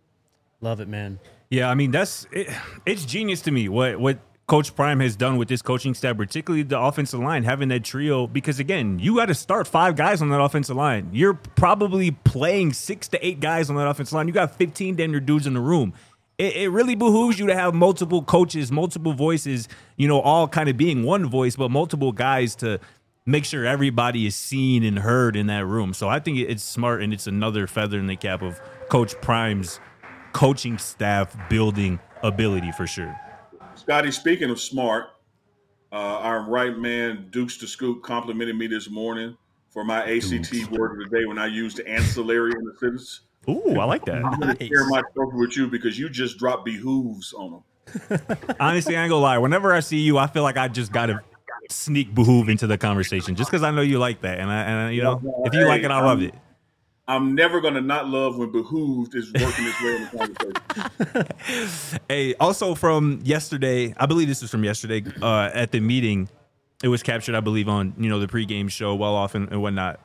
Speaker 1: Love it, man.
Speaker 2: Yeah, I mean that's it, it's genius to me what what Coach Prime has done with this coaching staff, particularly the offensive line, having that trio. Because again, you got to start five guys on that offensive line. You're probably playing six to eight guys on that offensive line. You got fifteen damn near dudes in the room. It, it really behooves you to have multiple coaches, multiple voices. You know, all kind of being one voice, but multiple guys to make sure everybody is seen and heard in that room. So I think it's smart, and it's another feather in the cap of Coach Prime's coaching staff building ability for sure.
Speaker 3: Scotty, speaking of smart, uh, our right man, Dukes to Scoop, complimented me this morning for my A C T word of the day when I used ancillary in the sentence.
Speaker 2: Ooh, I like that.
Speaker 3: I'm going to
Speaker 1: Nice.
Speaker 3: share my trophy with you because you just dropped behooves on them.
Speaker 2: Honestly, I ain't gonna lie. Whenever I see you, I feel like I just gotta sneak behoove into the conversation just because I know you like that. And I, and I, you know, if you like it, I love it.
Speaker 3: I'm never going to not love when behooved is working its way in the conversation.
Speaker 2: Hey, also from yesterday, I believe this was from yesterday uh, at the meeting. It was captured, I believe, on you know the pregame show, well off and, and whatnot.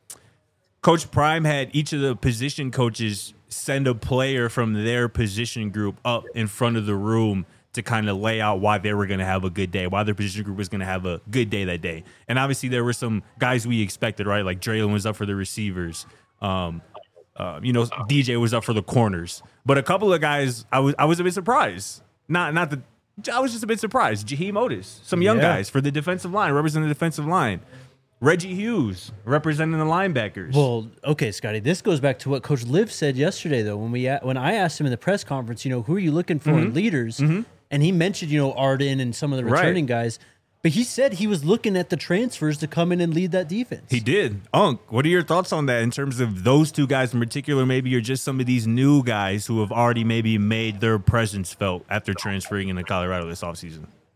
Speaker 2: Coach Prime had each of the position coaches send a player from their position group up in front of the room to kind of lay out why they were going to have a good day, why their position group was going to have a good day that day. And obviously there were some guys we expected, right? Like Draylon was up for the receivers. Um, uh, you know, D J was up for the corners. But a couple of guys, I was I was a bit surprised. Not not the, I was just a bit surprised. Jaheim Otis, some young
Speaker 1: Yeah.
Speaker 2: guys for the defensive line, representing the defensive line. Reggie Hughes representing the linebackers.
Speaker 1: Well, okay, Scotty. This goes back to what Coach Liv said yesterday, though. When we a- when I asked him in the press conference, you know, who are you looking for in leaders? And he mentioned, you know, Arden and some of the
Speaker 2: Right.
Speaker 1: returning guys. But he said he was looking at the transfers to come in and lead that defense.
Speaker 2: He did. Unc, what are your thoughts on that in terms of those two guys in particular? Maybe you're just some of these new guys who have already maybe made their presence felt after transferring into Colorado this offseason.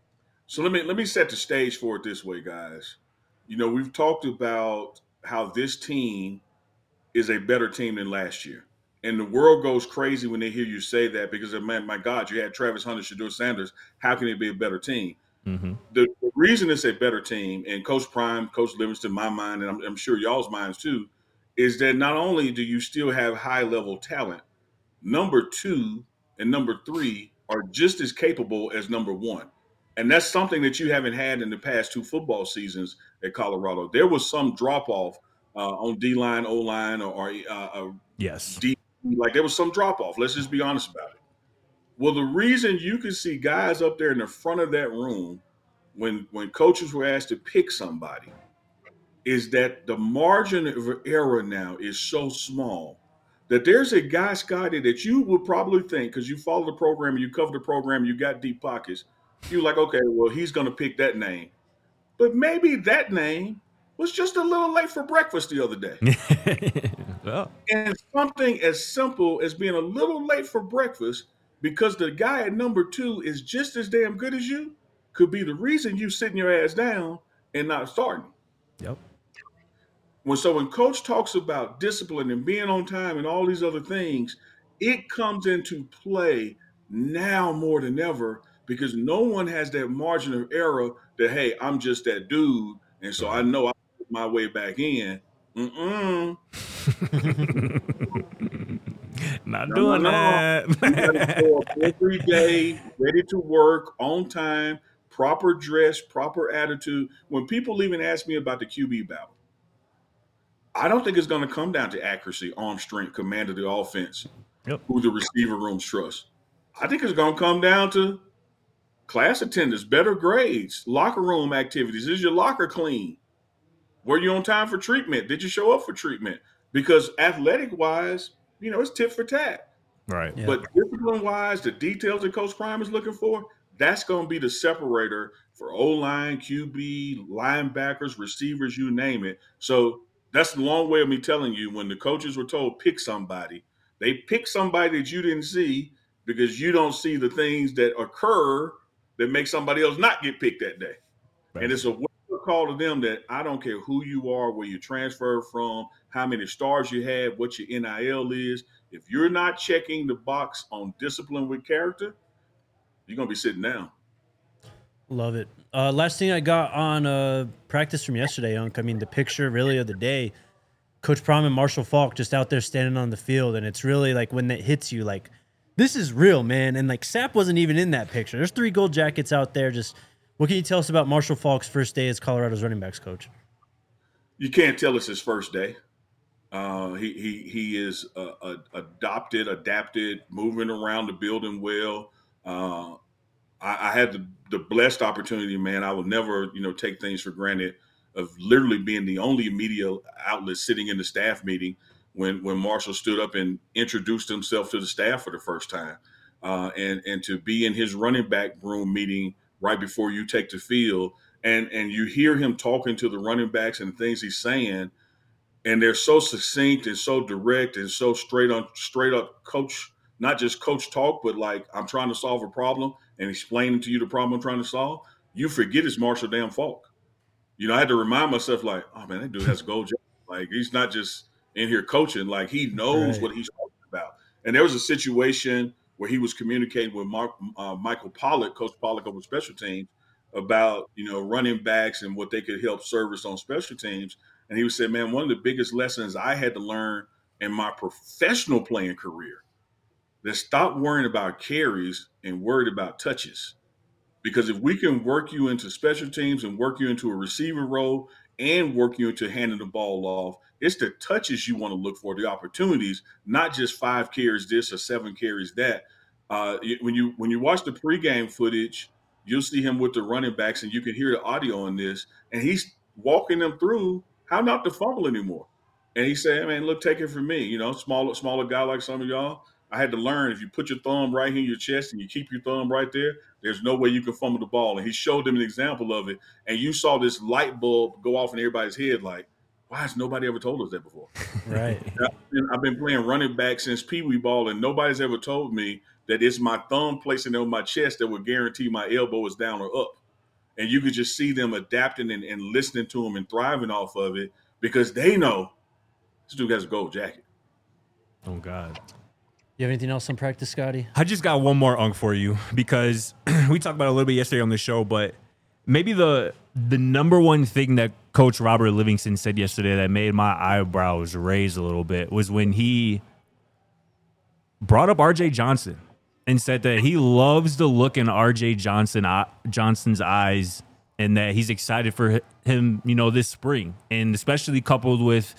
Speaker 3: So let me let me set the stage for it this way, guys. You know, we've talked about how this team is a better team than last year. And the world goes crazy when they hear you say that because, man, my God, you had Travis Hunter, Shedeur Sanders. How can it be a better team?
Speaker 2: Mm-hmm.
Speaker 3: The, the reason it's a better team, and Coach Prime, Coach Livingston, my mind, and I'm, I'm sure y'all's minds too, is that not only do you still have high-level talent, number two and number three are just as capable as number one. And that's something that you haven't had in the past two football seasons at Colorado. There was some drop-off uh, on D-line, O-line, or, or uh, uh,
Speaker 2: Yes.
Speaker 3: D. Like there was some drop-off. Let's just be honest about it. Well, the reason you can see guys up there in the front of that room when when coaches were asked to pick somebody is that the margin of error now is so small that there's a guy, Scotty, that you would probably think, because you follow the program, you cover the program, you got deep pockets, you're like, okay, well, he's going to pick that name. But maybe that name was just a little late for breakfast the other day.
Speaker 2: Well.
Speaker 3: And something as simple as being a little late for breakfast because the guy at number two is just as damn good as you could be the reason you sitting your ass down and not starting.
Speaker 2: Yep.
Speaker 3: When so when coach talks about discipline and being on time and all these other things, it comes into play now more than ever because no one has that margin of error that, hey, I'm just that dude, and so I know I'll put my way back in. Mm-mm.
Speaker 2: Not
Speaker 3: No,
Speaker 2: doing
Speaker 3: no, no.
Speaker 2: that.
Speaker 3: You gotta show up every day, ready to work, on time, proper dress, proper attitude. When people even ask me about the Q B battle, I don't think it's going to come down to accuracy, arm strength, command of the offense,
Speaker 2: Yep.
Speaker 3: who the receiver rooms trust. I think it's going to come down to class attendance, better grades, locker room activities. Is your locker clean? Were you on time for treatment? Did you show up for treatment? Because athletic-wise, you know, it's tit for tat.
Speaker 2: Right.
Speaker 1: Yeah.
Speaker 3: But discipline-wise, the details that Coach Prime is looking for, that's going to be the separator for O-line, Q B, linebackers, receivers, you name it. So that's the long way of me telling you when the coaches were told pick somebody, they pick somebody that you didn't see because you don't see the things that occur that make somebody else not get picked that day.
Speaker 2: Right.
Speaker 3: And it's a wake-up call to them that I don't care who you are, where you transferred from, how many stars you had, what your N I L is. If you're not checking the box on discipline with character, you're going to be sitting down.
Speaker 1: Love it. Uh, last thing I got on uh, practice from yesterday, Unc. I mean, the picture really of the day, Coach Prime and Marshall Faulk just out there standing on the field. And it's really like when it hits you, like, this is real, man. And like Sapp wasn't even in that picture. There's three gold jackets out there. Just what can you tell us about Marshall Faulk's first day as Colorado's running backs coach?
Speaker 3: You can't tell it's his first day. Uh, he he he is uh, uh, adopted, adapted, moving around the building well. Uh, I, I had the, the blessed opportunity, man. I will never, you know, take things for granted of literally being the only media outlet sitting in the staff meeting when when Marshall stood up and introduced himself to the staff for the first time, uh, and and to be in his running back room meeting right before you take the field, and and you hear him talking to the running backs and the things he's saying. And they're so succinct and so direct and so straight on, straight up coach, not just coach talk, but like I'm trying to solve a problem and explaining to you the problem I'm trying to solve. You forget it's Marshall damn Faulk. You know, I had to remind myself like, oh man, that dude has a gold jacket. Like he's not just in here coaching. Like he knows
Speaker 1: Right.
Speaker 3: what he's talking about. And there was a situation where he was communicating with Mark, uh, Michael Pollock, Coach Pollock over special teams, about, you know, running backs and what they could help service on special teams. And he was saying, man, one of the biggest lessons I had to learn in my professional playing career, that stop worrying about carries and worried about touches. Because if we can work you into special teams and work you into a receiver role and work you into handing the ball off, it's the touches you want to look for, the opportunities, not just five carries this or seven carries that. Uh, when you when you watch the pregame footage, you'll see him with the running backs and you can hear the audio on this, and he's walking them through how not to fumble anymore. And he said, man, look, take it from me. You know, smaller, smaller guy like some of y'all, I had to learn if you put your thumb right here in your chest and you keep your thumb right there, there's no way you can fumble the ball. And he showed them an example of it. And you saw this light bulb go off in everybody's head like, why has nobody ever told us that before?
Speaker 1: Right.
Speaker 3: I've been, I've been playing running back since Pee Wee ball, and nobody's ever told me that it's my thumb placing it on my chest that would guarantee my elbow is down or up. And you could just see them adapting and, and listening to him and thriving off of it because they know this dude has a gold jacket.
Speaker 2: Oh, God.
Speaker 1: You have anything else on practice, Scotty?
Speaker 2: I just got one more unk for you because we talked about it a little bit yesterday on the show, but maybe the the number one thing that Coach Robert Livingston said yesterday that made my eyebrows raise a little bit was when he brought up R J Johnson and said that he loves the look in R J Johnson Johnson's eyes and that he's excited for him, you know, this spring, and especially coupled with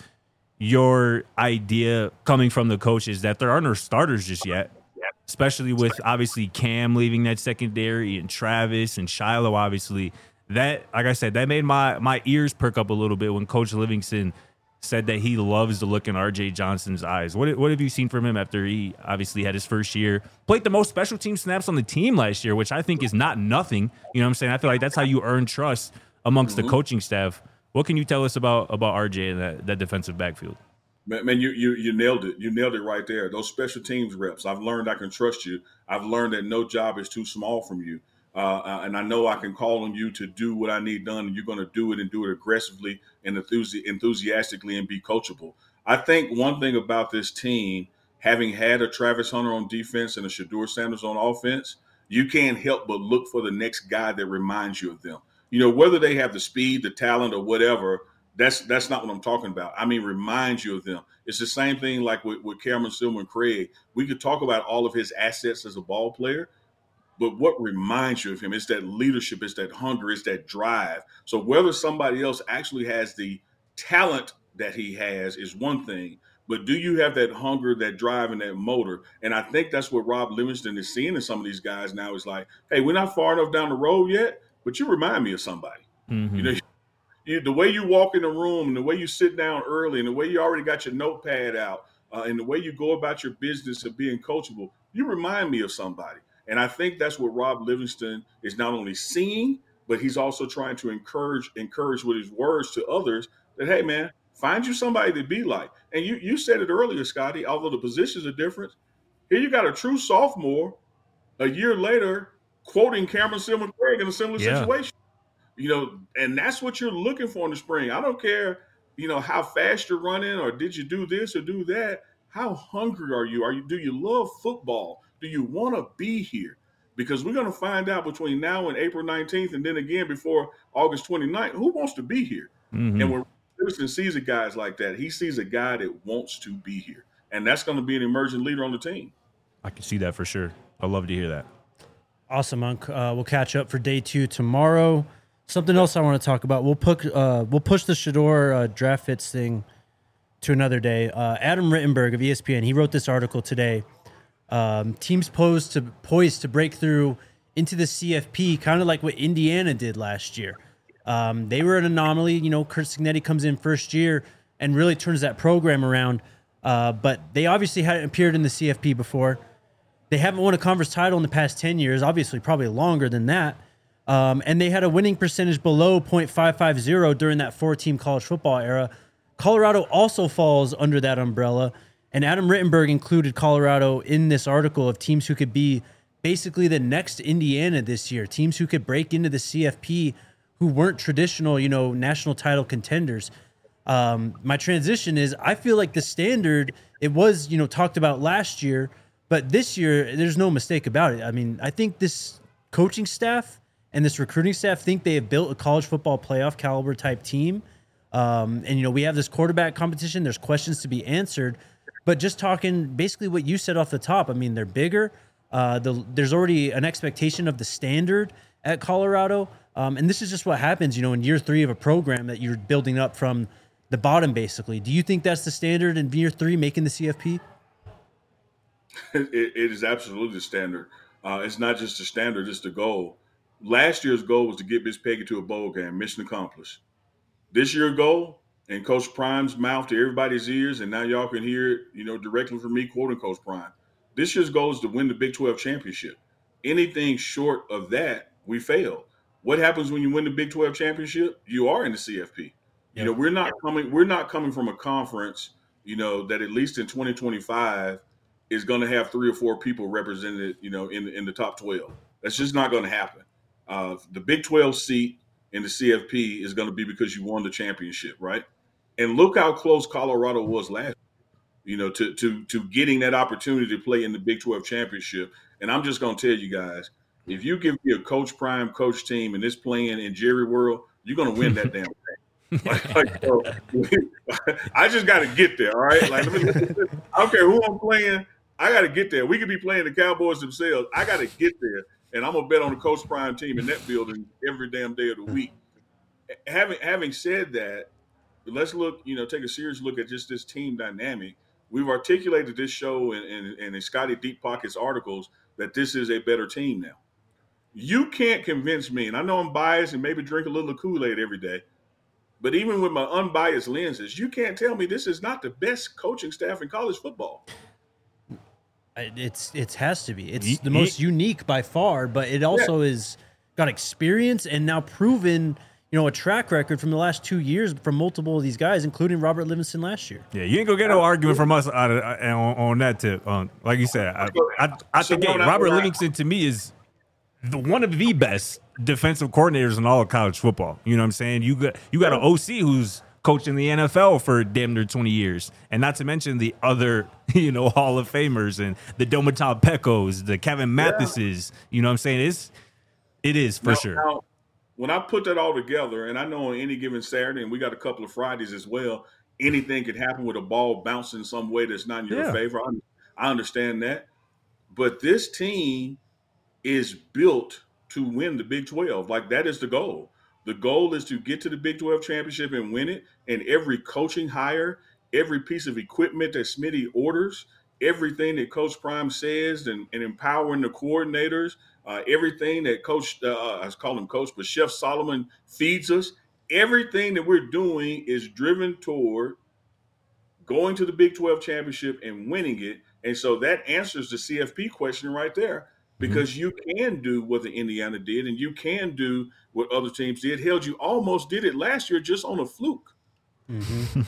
Speaker 2: your idea coming from the coaches that there are no starters just yet, especially with obviously Cam leaving that secondary and Travis and Shiloh, obviously. That, like I said, that made my my ears perk up a little bit when Coach Livingston said that he loves the look in R J Johnson's eyes. What what have you seen from him after he obviously had his first year, played the most special team snaps on the team last year, which I think is not nothing. You know what I'm saying? I feel like that's how you earn trust amongst mm-hmm. the coaching staff. What can you tell us about about R J and that, that defensive backfield?
Speaker 3: Man, man, you you you nailed it. You nailed it right there. Those special teams reps. I've learned I can trust you. I've learned that no job is too small from you. Uh, and I know I can call on you to do what I need done, and you're going to do it and do it aggressively and enthusi- enthusiastically and be coachable. I think one thing about this team, having had a Travis Hunter on defense and a Shedeur Sanders on offense, you can't help but look for the next guy that reminds you of them. You know, whether they have the speed, the talent, or whatever, that's that's not what I'm talking about. I mean, reminds you of them. It's the same thing like with, with Cameron Silver and Craig. We could talk about all of his assets as a ball player, but what reminds you of him is that leadership, is that hunger, is that drive. So whether somebody else actually has the talent that he has is one thing, but do you have that hunger, that drive, and that motor? And I think that's what Rob Livingston is seeing in some of these guys now is like, hey, we're not far enough down the road yet, but you remind me of somebody. Mm-hmm. You know, you, the way you walk in the room and the way you sit down early and the way you already got your notepad out uh, and the way you go about your business of being coachable, you remind me of somebody. And I think that's what Rob Livingston is not only seeing, but he's also trying to encourage encourage with his words to others that, hey, man, find you somebody to be like. And you you said it earlier, Scotty, although the positions are different. Here you got a true sophomore a year later quoting Cameron Silver Craig in a similar yeah. situation. You know, and that's what you're looking for in the spring. I don't care, you know, how fast you're running or did you do this or do that. How hungry are you? Are you do you love football? Do you want to be here? Because we're going to find out between now and April nineteenth and then again before August twenty-ninth, who wants to be here? Mm-hmm. And when Livingston sees a guy like that, he sees a guy that wants to be here. And that's going to be an emerging leader on the team.
Speaker 2: I can see that for sure. I'd love to hear that.
Speaker 1: Awesome, Monk. Uh, we'll catch up for day two tomorrow. Something else I want to talk about. We'll put uh, we'll push the Shedeur uh, draft fits thing to another day. Uh, Adam Rittenberg of E S P N, he wrote this article today. Um, teams posed to poised to break through into the C F P, kind of like what Indiana did last year. Um, they were an anomaly. You know, Curt Cignetti comes in first year and really turns that program around. Uh, but they obviously hadn't appeared in the C F P before. They haven't won a conference title in the past ten years, obviously probably longer than that. Um, and they had a winning percentage below point five five zero during that four-team college football era. Colorado also falls under that umbrella. And Adam Rittenberg included Colorado in this article of teams who could be basically the next Indiana this year, teams who could break into the C F P who weren't traditional, you know, national title contenders. Um, my transition is I feel like the standard, it was, you know, talked about last year, but this year, there's no mistake about it. I mean, I think this coaching staff and this recruiting staff think they have built a college football playoff caliber type team. Um, and, you know, we have this quarterback competition. There's questions to be answered. But just talking basically what you said off the top, I mean, they're bigger. Uh, the, there's already an expectation of the standard at Colorado. Um, and this is just what happens, you know, in year three of a program that you're building up from the bottom, basically. Do you think that's the standard in year three, making the C F P?
Speaker 3: It, it is absolutely the standard. Uh, it's not just the standard, it's the goal. Last year's goal was to get Miss Peggy to a bowl game. Mission accomplished. This year's goal, in Coach Prime's mouth to everybody's ears, and now y'all can hear it, you know, directly from me quoting Coach Prime. This year's goal is to win the Big twelve championship. Anything short of that, we fail. What happens when you win the Big twelve championship? You are in the C F P. Yep. You know, we're not coming. We're not coming from a conference, you know, that at least in twenty twenty-five is going to have three or four people represented, you know, in in the top twelve. That's just not going to happen. Uh, the Big twelve seat in the C F P is going to be because you won the championship, right? And look how close Colorado was last year, you know, to to to getting that opportunity to play in the Big twelve championship. And I'm just going to tell you guys, if you give me a Coach Prime coach team and this playing in Jerry World, you're going to win that damn thing. Like, like, so, I just got to get there, all right? Like, let me, I don't care who I'm playing. I got to get there. We could be playing the Cowboys themselves. I got to get there, and I'm gonna bet on the Coach Prime team in that building every damn day of the week. Having having said that, let's look. You know, take a serious look at just this team dynamic. We've articulated this show and in, in, in Scotty Deep Pockets articles that this is a better team now. You can't convince me, and I know I'm biased and maybe drink a little Kool-Aid every day, but even with my unbiased lenses, you can't tell me this is not the best coaching staff in college football.
Speaker 1: It's it has to be. It's the most unique by far, but it also yeah. is got experience and now proven, you know, a track record from the last two years from multiple of these guys, including Robert Livingston last year.
Speaker 2: Yeah, you ain't gonna get no argument from us on, on, on that tip. Um, like you said, I, I, I think hey, Robert Livingston to me is the one of the best defensive coordinators in all of college football. You know what I'm saying? You got you got an O C who's coached in the N F L for damn near twenty years, and not to mention the other, you know, Hall of Famers and the Domata Pecos, the Kevin Mathises. Yeah. You know what I'm saying? It's it is for now, sure.
Speaker 3: Now, when I put that all together, and I know on any given Saturday, and we got a couple of Fridays as well, anything could happen with a ball bouncing some way that's not in your yeah. favor. I, I understand that, but this team is built to win the Big twelve. Like, that is the goal. The goal is to get to the Big twelve championship and win it. And every coaching hire, every piece of equipment that Smitty orders, everything that Coach Prime says, and, and empowering the coordinators, uh, everything that Coach, uh, I call him Coach, but Chef Solomon feeds us, everything that we're doing is driven toward going to the Big twelve championship and winning it. And so that answers the C F P question right there. Because you can do what the Indiana did, and you can do what other teams did. Hell, you almost did it last year just on a fluke.
Speaker 1: Mm-hmm.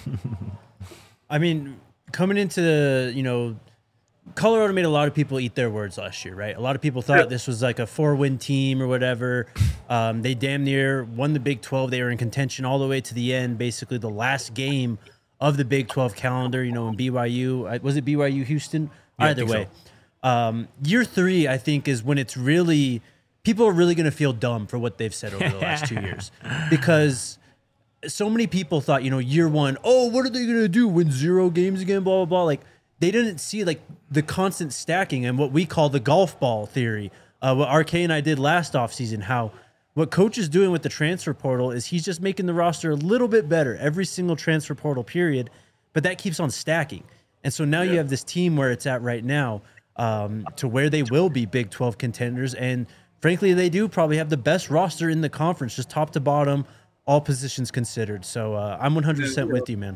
Speaker 1: I mean, coming into, you know, Colorado made a lot of people eat their words last year, right? A lot of people thought yeah. this was like a four-win team or whatever. Um, they damn near won the Big twelve. They were in contention all the way to the end, basically the last game of the Big twelve calendar, you know, in B Y U. Was it B Y U Houston? Yeah, Either way. So. Um, year three, I think, is when it's really people are really going to feel dumb for what they've said over the last two years, because so many people thought, you know, year one, oh, what are they going to do? Win zero games again? Blah blah blah. Like, they didn't see like the constant stacking and what we call the golf ball theory. Uh, what R K and I did last offseason, how what Coach is doing with the transfer portal is he's just making the roster a little bit better every single transfer portal period, but that keeps on stacking. And so now yeah. you have this team where it's at right now. Um, to where they will be Big twelve contenders. And frankly, they do probably have the best roster in the conference, just top to bottom, all positions considered. So uh, I'm one hundred percent with you, man.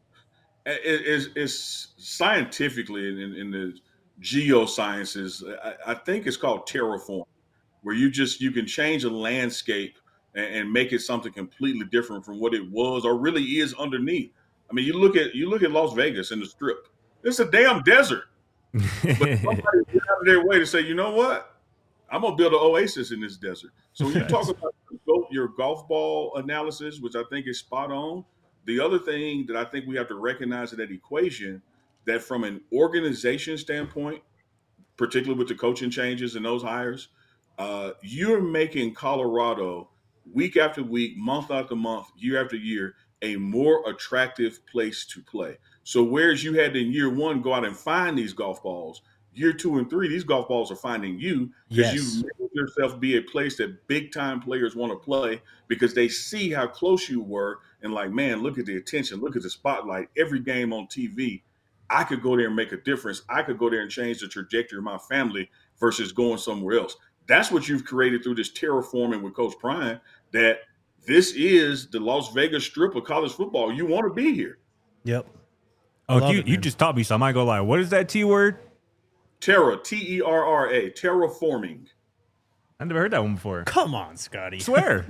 Speaker 3: It's, it's scientifically in, in the geosciences, I, I think it's called terraform, where you just, you can change a landscape and, and make it something completely different from what it was or really is underneath. I mean, you look at, you look at Las Vegas and the Strip, it's a damn desert. But somebody get out of their way to say, you know what? I'm gonna build an oasis in this desert. So when you talk about your golf ball analysis, which I think is spot on, the other thing that I think we have to recognize in that equation, that from an organization standpoint, particularly with the coaching changes and those hires, uh, you're making Colorado week after week, month after month, year after year, a more attractive place to play. So whereas you had to in year one go out and find these golf balls, year two and three, these golf balls are finding you because yes. you made yourself be a place that big time players want to play because they see how close you were and like, man, look at the attention, look at the spotlight, every game on T V. I could go there and make a difference. I could go there and change the trajectory of my family versus going somewhere else. That's what you've created through this terraforming with Coach Prime, that this is the Las Vegas Strip of college football. You want to be here.
Speaker 1: Yep.
Speaker 2: Oh, you, it, you just taught me something. I ain't gonna lie. What is that T word?
Speaker 3: Terra, T E R R A, terraforming.
Speaker 2: I never heard that one before.
Speaker 1: Come on, Scotty.
Speaker 2: Swear.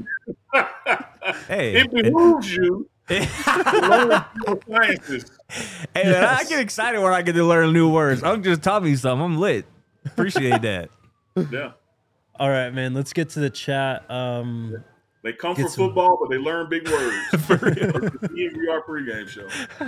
Speaker 2: Hey,
Speaker 3: it behooves you to learn sciences.
Speaker 2: Hey, man, yes. I get excited when I get to learn new words. I'm just taught me something. I'm lit. Appreciate that.
Speaker 3: Yeah.
Speaker 1: All right, man. Let's get to the chat. Um,
Speaker 3: They come
Speaker 1: Get
Speaker 3: for
Speaker 1: some-
Speaker 3: football, but they learn big words. For real. The D N V R pregame show.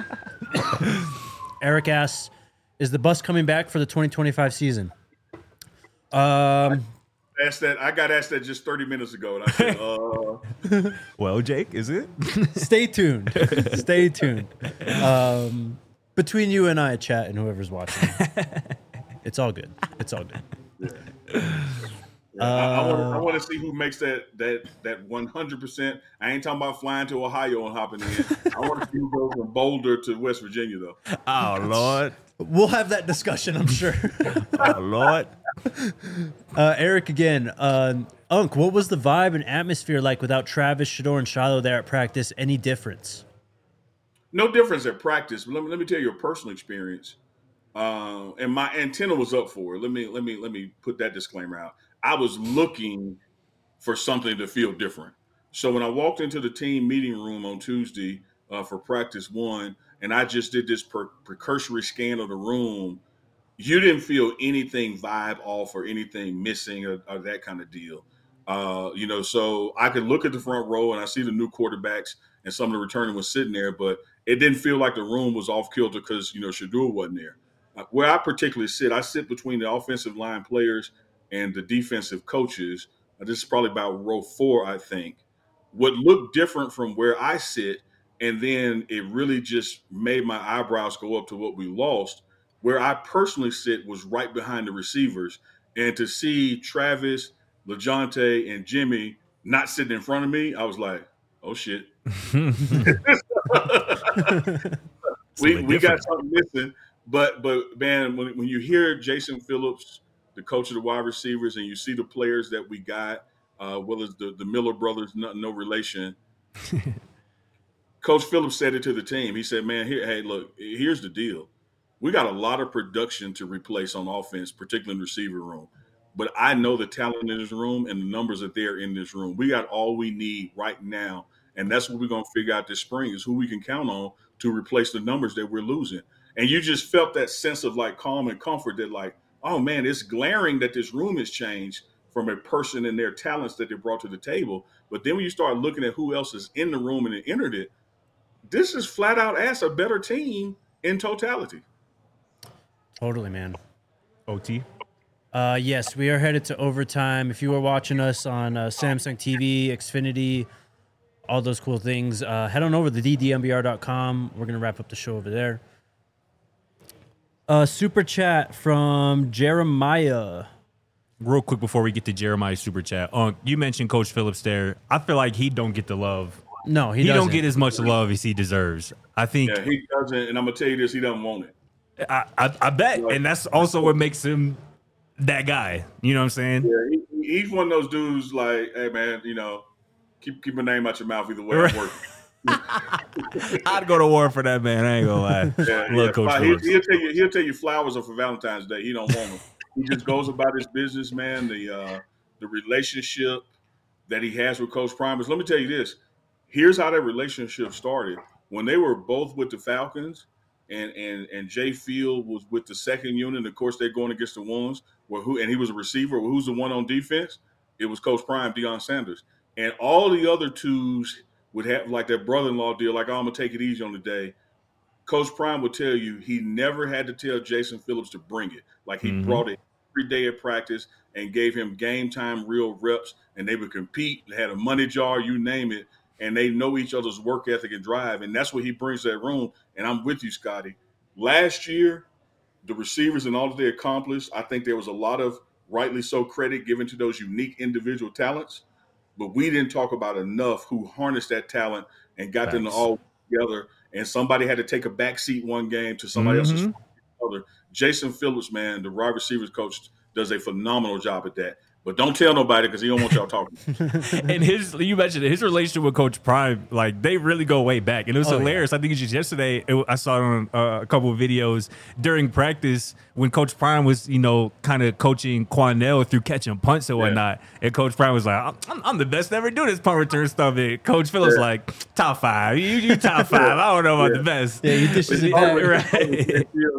Speaker 1: Eric asks, "Is the bus coming back for the twenty twenty-five season?" Um,
Speaker 3: Asked that. I got asked that just thirty minutes ago, and I said, uh,
Speaker 2: Well, Jake, is it?
Speaker 1: stay tuned. Stay tuned. Um, between you and I, chat, and whoever's watching, it's all good. It's all good.
Speaker 3: yeah, I, I want to I want to see who makes that that that one hundred percent. I ain't talking about flying to Ohio and hopping in. I want to see who goes from Boulder to West Virginia, though.
Speaker 2: Oh, Lord.
Speaker 1: We'll have that discussion, I'm sure.
Speaker 2: Oh, Lord.
Speaker 1: Uh, Eric again. Uh, Unc, what was the vibe and atmosphere like without Travis, Shador, and Shiloh there at practice? Any difference?
Speaker 3: No difference at practice. But let me let me tell you a personal experience. Um, and my antenna was up for it. Let me let me let me put that disclaimer out. I was looking for something to feel different. So when I walked into the team meeting room on Tuesday uh, for practice one, and I just did this per- precursory scan of the room, you didn't feel anything vibe off or anything missing or, or that kind of deal. Uh, you know, so I could look at the front row and I see the new quarterbacks and some of the returning was sitting there, but it didn't feel like the room was off kilter because, you know, Shador wasn't there. Uh, where I particularly sit, I sit between the offensive line players and the defensive coaches. Uh, this is probably about row four, I think. What looked different from where I sit, and then it really just made my eyebrows go up to what we lost. Where I personally sit was right behind the receivers. And to see Travis, LeJounte, and Jimmy not sitting in front of me, I was like, oh, shit. we we got something missing. But, but man, when, when you hear Jason Phillips, the coach of the wide receivers, and you see the players that we got, uh, well as the, the Miller brothers, no, no relation. Coach Phillips said it to the team. He said, man, here, hey, look, here's the deal. We got a lot of production to replace on offense, particularly in the receiver room. But I know the talent in this room and the numbers that they're in this room. We got all we need right now. And that's what we're going to figure out this spring is who we can count on to replace the numbers that we're losing. And you just felt that sense of like calm and comfort that like, oh man, it's glaring that this room has changed from a person and their talents that they brought to the table. But then when you start looking at who else is in the room and it entered it, this is flat out ass a better team in totality.
Speaker 1: Totally, man.
Speaker 2: O T.
Speaker 1: Uh, yes, we are headed to overtime. If you are watching us on uh, Samsung T V, Xfinity, all those cool things, uh, head on over to d d m b r dot com. We're going to wrap up the show over there. Uh, super chat from Jeremiah.
Speaker 2: Real quick before we get to Jeremiah's super chat, uh, you mentioned Coach Phillips there. I feel like he don't get the love.
Speaker 1: No, he,
Speaker 2: He,
Speaker 1: doesn't.
Speaker 2: don't get as much love as he deserves. I think.
Speaker 3: Yeah, he doesn't. And I'm going to tell you this, he doesn't want it.
Speaker 2: I, I, I bet, and that's also what makes him that guy. You know what I'm saying?
Speaker 3: Yeah, he, he's one of those dudes like, hey, man, you know, keep keep my name out your mouth either way
Speaker 2: Right.
Speaker 3: I'm working.
Speaker 2: I'd go to war for that man. I ain't gonna lie.
Speaker 3: Yeah,
Speaker 2: Love
Speaker 3: yeah.
Speaker 2: Coach
Speaker 3: Fine. He,
Speaker 2: Phillips.
Speaker 3: he'll tell you he'll tell you flowers are for Valentine's Day. He don't want them. He just goes about his business, man. The uh, the relationship that he has with Coach Primus. Let me tell you this. Here's how that relationship started. When they were both with the Falcons, and and and Jay Field was with the second unit. And of course, they're going against the ones where who and he was a receiver. Well, who's the one on defense? It was Coach Prime, Deion Sanders, and all the other twos would have like that brother-in-law deal. Like, oh, I'm gonna take it easy on the day. Coach Prime would tell you he never had to tell Jason Phillips to bring it. Like he
Speaker 2: Mhm.
Speaker 3: brought it every day at practice and gave him game time, real reps, and they would compete. They had a money jar, you name it, and they know each other's work ethic and drive, and that's what he brings to that room. And I'm with you, Scotty. Last year, the receivers and all that they accomplished, I think there was a lot of rightly so credit given to those unique individual talents, but we didn't talk about enough who harnessed that talent and got them to
Speaker 2: Facts.
Speaker 3: all together. And somebody had to take a back seat one game to somebody else's
Speaker 2: Mhm.
Speaker 3: other. Jason Phillips, man, the wide receivers coach, does a phenomenal job at that. But don't tell nobody because he don't want y'all talking.
Speaker 2: And his, you mentioned it, his relationship with Coach Prime, like they really go way back, and it was
Speaker 1: Oh,
Speaker 2: hilarious. I think it's just yesterday. It, I saw it on uh, a couple of videos during practice when Coach Prime was, you know, kind of coaching Quanell through catching punts and whatnot. And Coach Prime was like, "I'm, I'm the best to ever do this punt return stuff." And Coach Phillips
Speaker 3: Yeah.
Speaker 2: like, "Top five, you, you top five. I don't know about
Speaker 3: Yeah.
Speaker 2: the best."
Speaker 1: Yeah, he dishes it
Speaker 3: Always-
Speaker 1: back.
Speaker 2: Right.
Speaker 3: Yeah.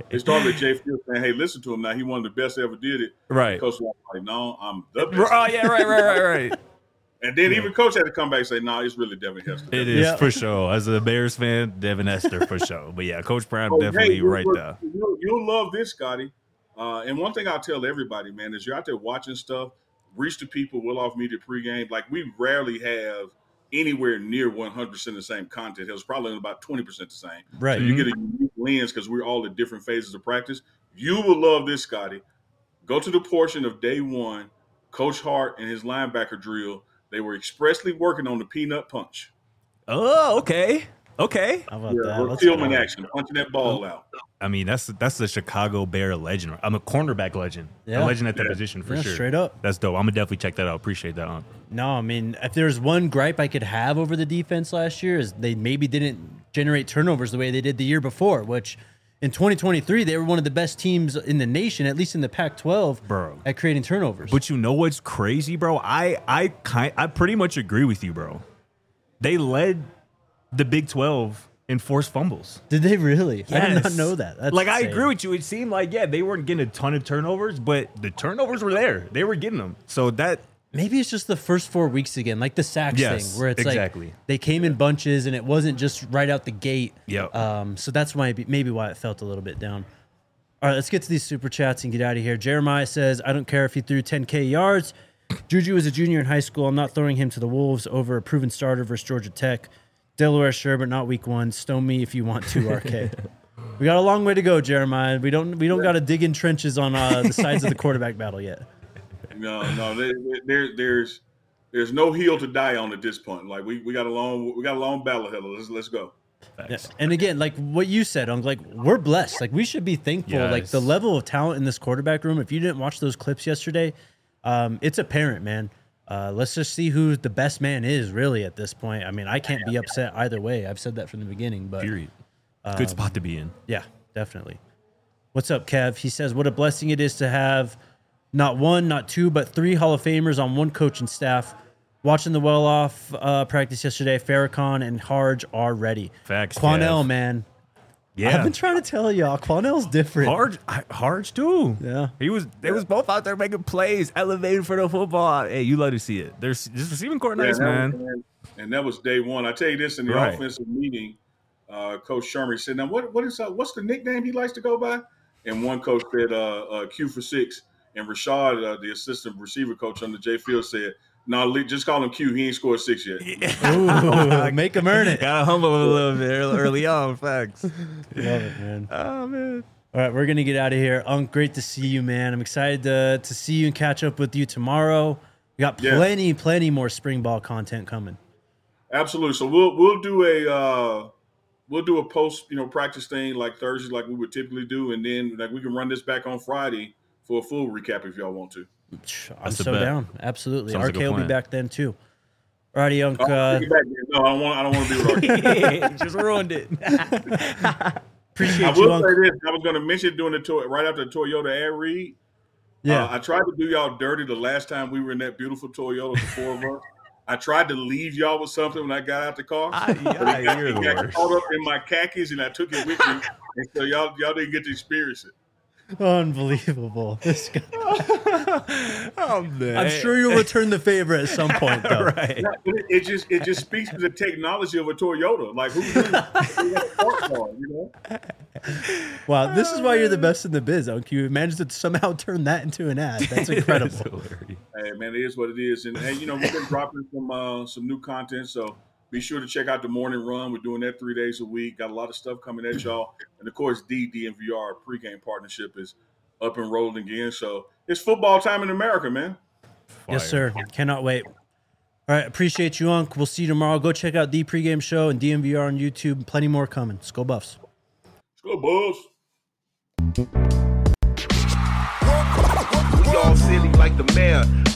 Speaker 3: They started with Jay Field saying, "Hey, listen to him now. He one of the best that ever did it."
Speaker 2: Right.
Speaker 3: Coach was like, "No, I'm the best."
Speaker 2: Oh yeah, right, right, right, right.
Speaker 3: And then even Coach had to come back and say, "No, nah, it's really Devin Hester."
Speaker 2: It is
Speaker 1: Yeah.
Speaker 2: for sure. As a Bears fan, Devin Hester for sure. But yeah, Coach Prime
Speaker 3: Oh,
Speaker 2: definitely
Speaker 3: hey,
Speaker 2: right
Speaker 3: you'll,
Speaker 2: there.
Speaker 3: You'll, you'll love this, Scotty. Uh, and one thing I'll tell everybody, man, is you're out there watching stuff, reach the people, Will Off Media pregame. Like, we rarely have anywhere near one hundred percent the same content. It was probably about twenty percent the same.
Speaker 1: Right.
Speaker 3: So you get a unique lens because we're all at different phases of practice. You will love this, Scotty. Go to the portion of day one, Coach Hart and his linebacker drill. They were expressly working on the peanut punch.
Speaker 2: Oh, okay. Okay.
Speaker 1: How about
Speaker 3: Yeah,
Speaker 1: that? Let's
Speaker 3: Tillman
Speaker 1: go.
Speaker 3: action, punching that ball out.
Speaker 2: I mean, that's that's the Chicago Bear legend. I'm a cornerback legend.
Speaker 1: Yeah.
Speaker 2: A legend at that
Speaker 3: Yeah.
Speaker 2: position for
Speaker 1: Yeah,
Speaker 2: sure.
Speaker 1: straight up.
Speaker 2: That's dope. I'm gonna definitely check that out. Appreciate that. Huh?
Speaker 1: No, I mean, if there's one gripe I could have over the defense last year is they maybe didn't generate turnovers the way they did the year before, which in twenty twenty-three, they were one of the best teams in the nation, at least in the Pac twelve,
Speaker 2: Bro.
Speaker 1: at creating turnovers.
Speaker 2: But you know what's crazy, bro? I I kind I pretty much agree with you, bro. They led the Big twelve in forced fumbles.
Speaker 1: Did they really? I did not
Speaker 2: Yes.
Speaker 1: know that. That's
Speaker 2: like I
Speaker 1: insane.
Speaker 2: agree with you. It seemed like yeah, they weren't getting a ton of turnovers, but the turnovers were there. They were getting them. So that
Speaker 1: Maybe it's just the first four weeks again, like the sacks
Speaker 2: Yes,
Speaker 1: thing, where it's
Speaker 2: exactly.
Speaker 1: like they came in bunches and it wasn't just right out the gate.
Speaker 2: Yep.
Speaker 1: Um, so that's why maybe why it felt a little bit down. All right, let's get to these super chats and get out of here. Jeremiah says, "I don't care if he threw ten K yards. Juju is a junior in high school. I'm not throwing him to the Wolves over a proven starter versus Georgia Tech. Delaware, sure, but not week one. Stone me if you want to, R K." We got a long way to go, Jeremiah. We don't we don't got to dig in trenches on uh, the sides of the quarterback battle yet.
Speaker 3: No, no, there, there, there's there's no hill to die on at this point. Like we, we got a long we got a long battle ahead of us. Let's let's go.
Speaker 1: Yeah. And again, like what you said, Unc, like we're blessed. Like we should be thankful. Like the
Speaker 2: Yes.
Speaker 1: level of talent in this quarterback room. If you didn't watch those clips yesterday, um, it's apparent, man. Uh, let's just see who the best man is really at this point. I mean, I can't be upset either way. I've said that from the beginning, but
Speaker 2: period. Good spot to be in.
Speaker 1: yeah, definitely. What's up, Kev? He says, "What a blessing it is to have not one, not two, but three Hall of Famers on one coaching staff. Watching the well-off uh, practice yesterday, Farrakhan and Harge are ready."
Speaker 2: Facts,
Speaker 1: Quanell,
Speaker 2: Kev.
Speaker 1: man.
Speaker 2: Yeah.
Speaker 1: I've been trying to tell y'all, Quanell's different.
Speaker 2: Harge, Harge too.
Speaker 1: Yeah.
Speaker 2: he was. They was both out there making plays, elevating for the football. Hey, you love to see it. There's just receiving court nice,
Speaker 3: that
Speaker 2: man.
Speaker 3: was- and that was day one. I tell you this in the
Speaker 2: Right.
Speaker 3: offensive meeting, uh, Coach Sherman said, "Now what what is uh, what's the nickname he likes to go by?" And one coach said, uh, uh, "Q for six." And Rashad, uh, the assistant receiver coach on the J Field, said, "No, nah, just call him Q. He ain't scored six yet."
Speaker 1: Ooh, make him earn it.
Speaker 2: Gotta humble him a little bit early, early on. Facts.
Speaker 1: Love it, man.
Speaker 2: Oh man.
Speaker 1: All right, we're gonna get out of here. Unc, great to see you, man. I'm excited to to see you and catch up with you tomorrow. We got
Speaker 3: Yeah.
Speaker 1: plenty, plenty more spring ball content coming.
Speaker 3: Absolutely. So we'll we'll do a uh, we'll do a post you know practice thing like Thursday, like we would typically do, and then like we can run this back on Friday for a full recap if y'all want to.
Speaker 1: I'm
Speaker 2: That's a
Speaker 1: so
Speaker 2: bet.
Speaker 1: down. Absolutely.
Speaker 2: Sounds like
Speaker 1: R K
Speaker 2: a
Speaker 1: will be
Speaker 2: plan.
Speaker 1: back then too. All righty, Unc.
Speaker 3: Oh,
Speaker 1: Uh,
Speaker 3: take it back, man. No, I don't want. I don't want to be with R K.
Speaker 2: Just ruined it.
Speaker 1: appreciate
Speaker 3: I
Speaker 1: you,
Speaker 3: will
Speaker 1: Unc.
Speaker 3: say this. I was going to mention doing the toy right after the Toyota ad read.
Speaker 1: Yeah.
Speaker 3: Uh, I tried to do y'all dirty the last time we were in that beautiful Toyota, the four of us. I tried to leave y'all with something when I got out the car.
Speaker 2: I,
Speaker 3: But it got,
Speaker 2: you're
Speaker 3: it
Speaker 2: the
Speaker 3: got
Speaker 2: worst.
Speaker 3: caught up in my khakis, and I took it with me. And so y'all y'all didn't get to experience it.
Speaker 1: Unbelievable. This guy.
Speaker 2: Oh man.
Speaker 1: I'm sure you'll return the favor at some point, though.
Speaker 2: right.
Speaker 3: Yeah, but it, it just it just speaks to the technology of a Toyota. Like who knew? Who had a smart car, you know?
Speaker 1: Wow, this is why you're the best in the biz, Unc. You managed to somehow turn that into an ad. That's incredible.
Speaker 2: hilarious.
Speaker 3: Hey man, it is what it is, and, and you know we've been dropping some uh, some new content, so be sure to check out the morning run. We're doing that three days a week. Got a lot of stuff coming at y'all, and of course, D D N V R pregame partnership is up and rolling again. So it's football time in America, man.
Speaker 1: Yes, sir. Cannot wait. All right, appreciate you, Unc. We'll see you tomorrow. Go check out the pregame show and D M V R on YouTube. Plenty more coming. Let's go Buffs.
Speaker 3: Let's go, Bulls.
Speaker 4: We all silly like the mayor.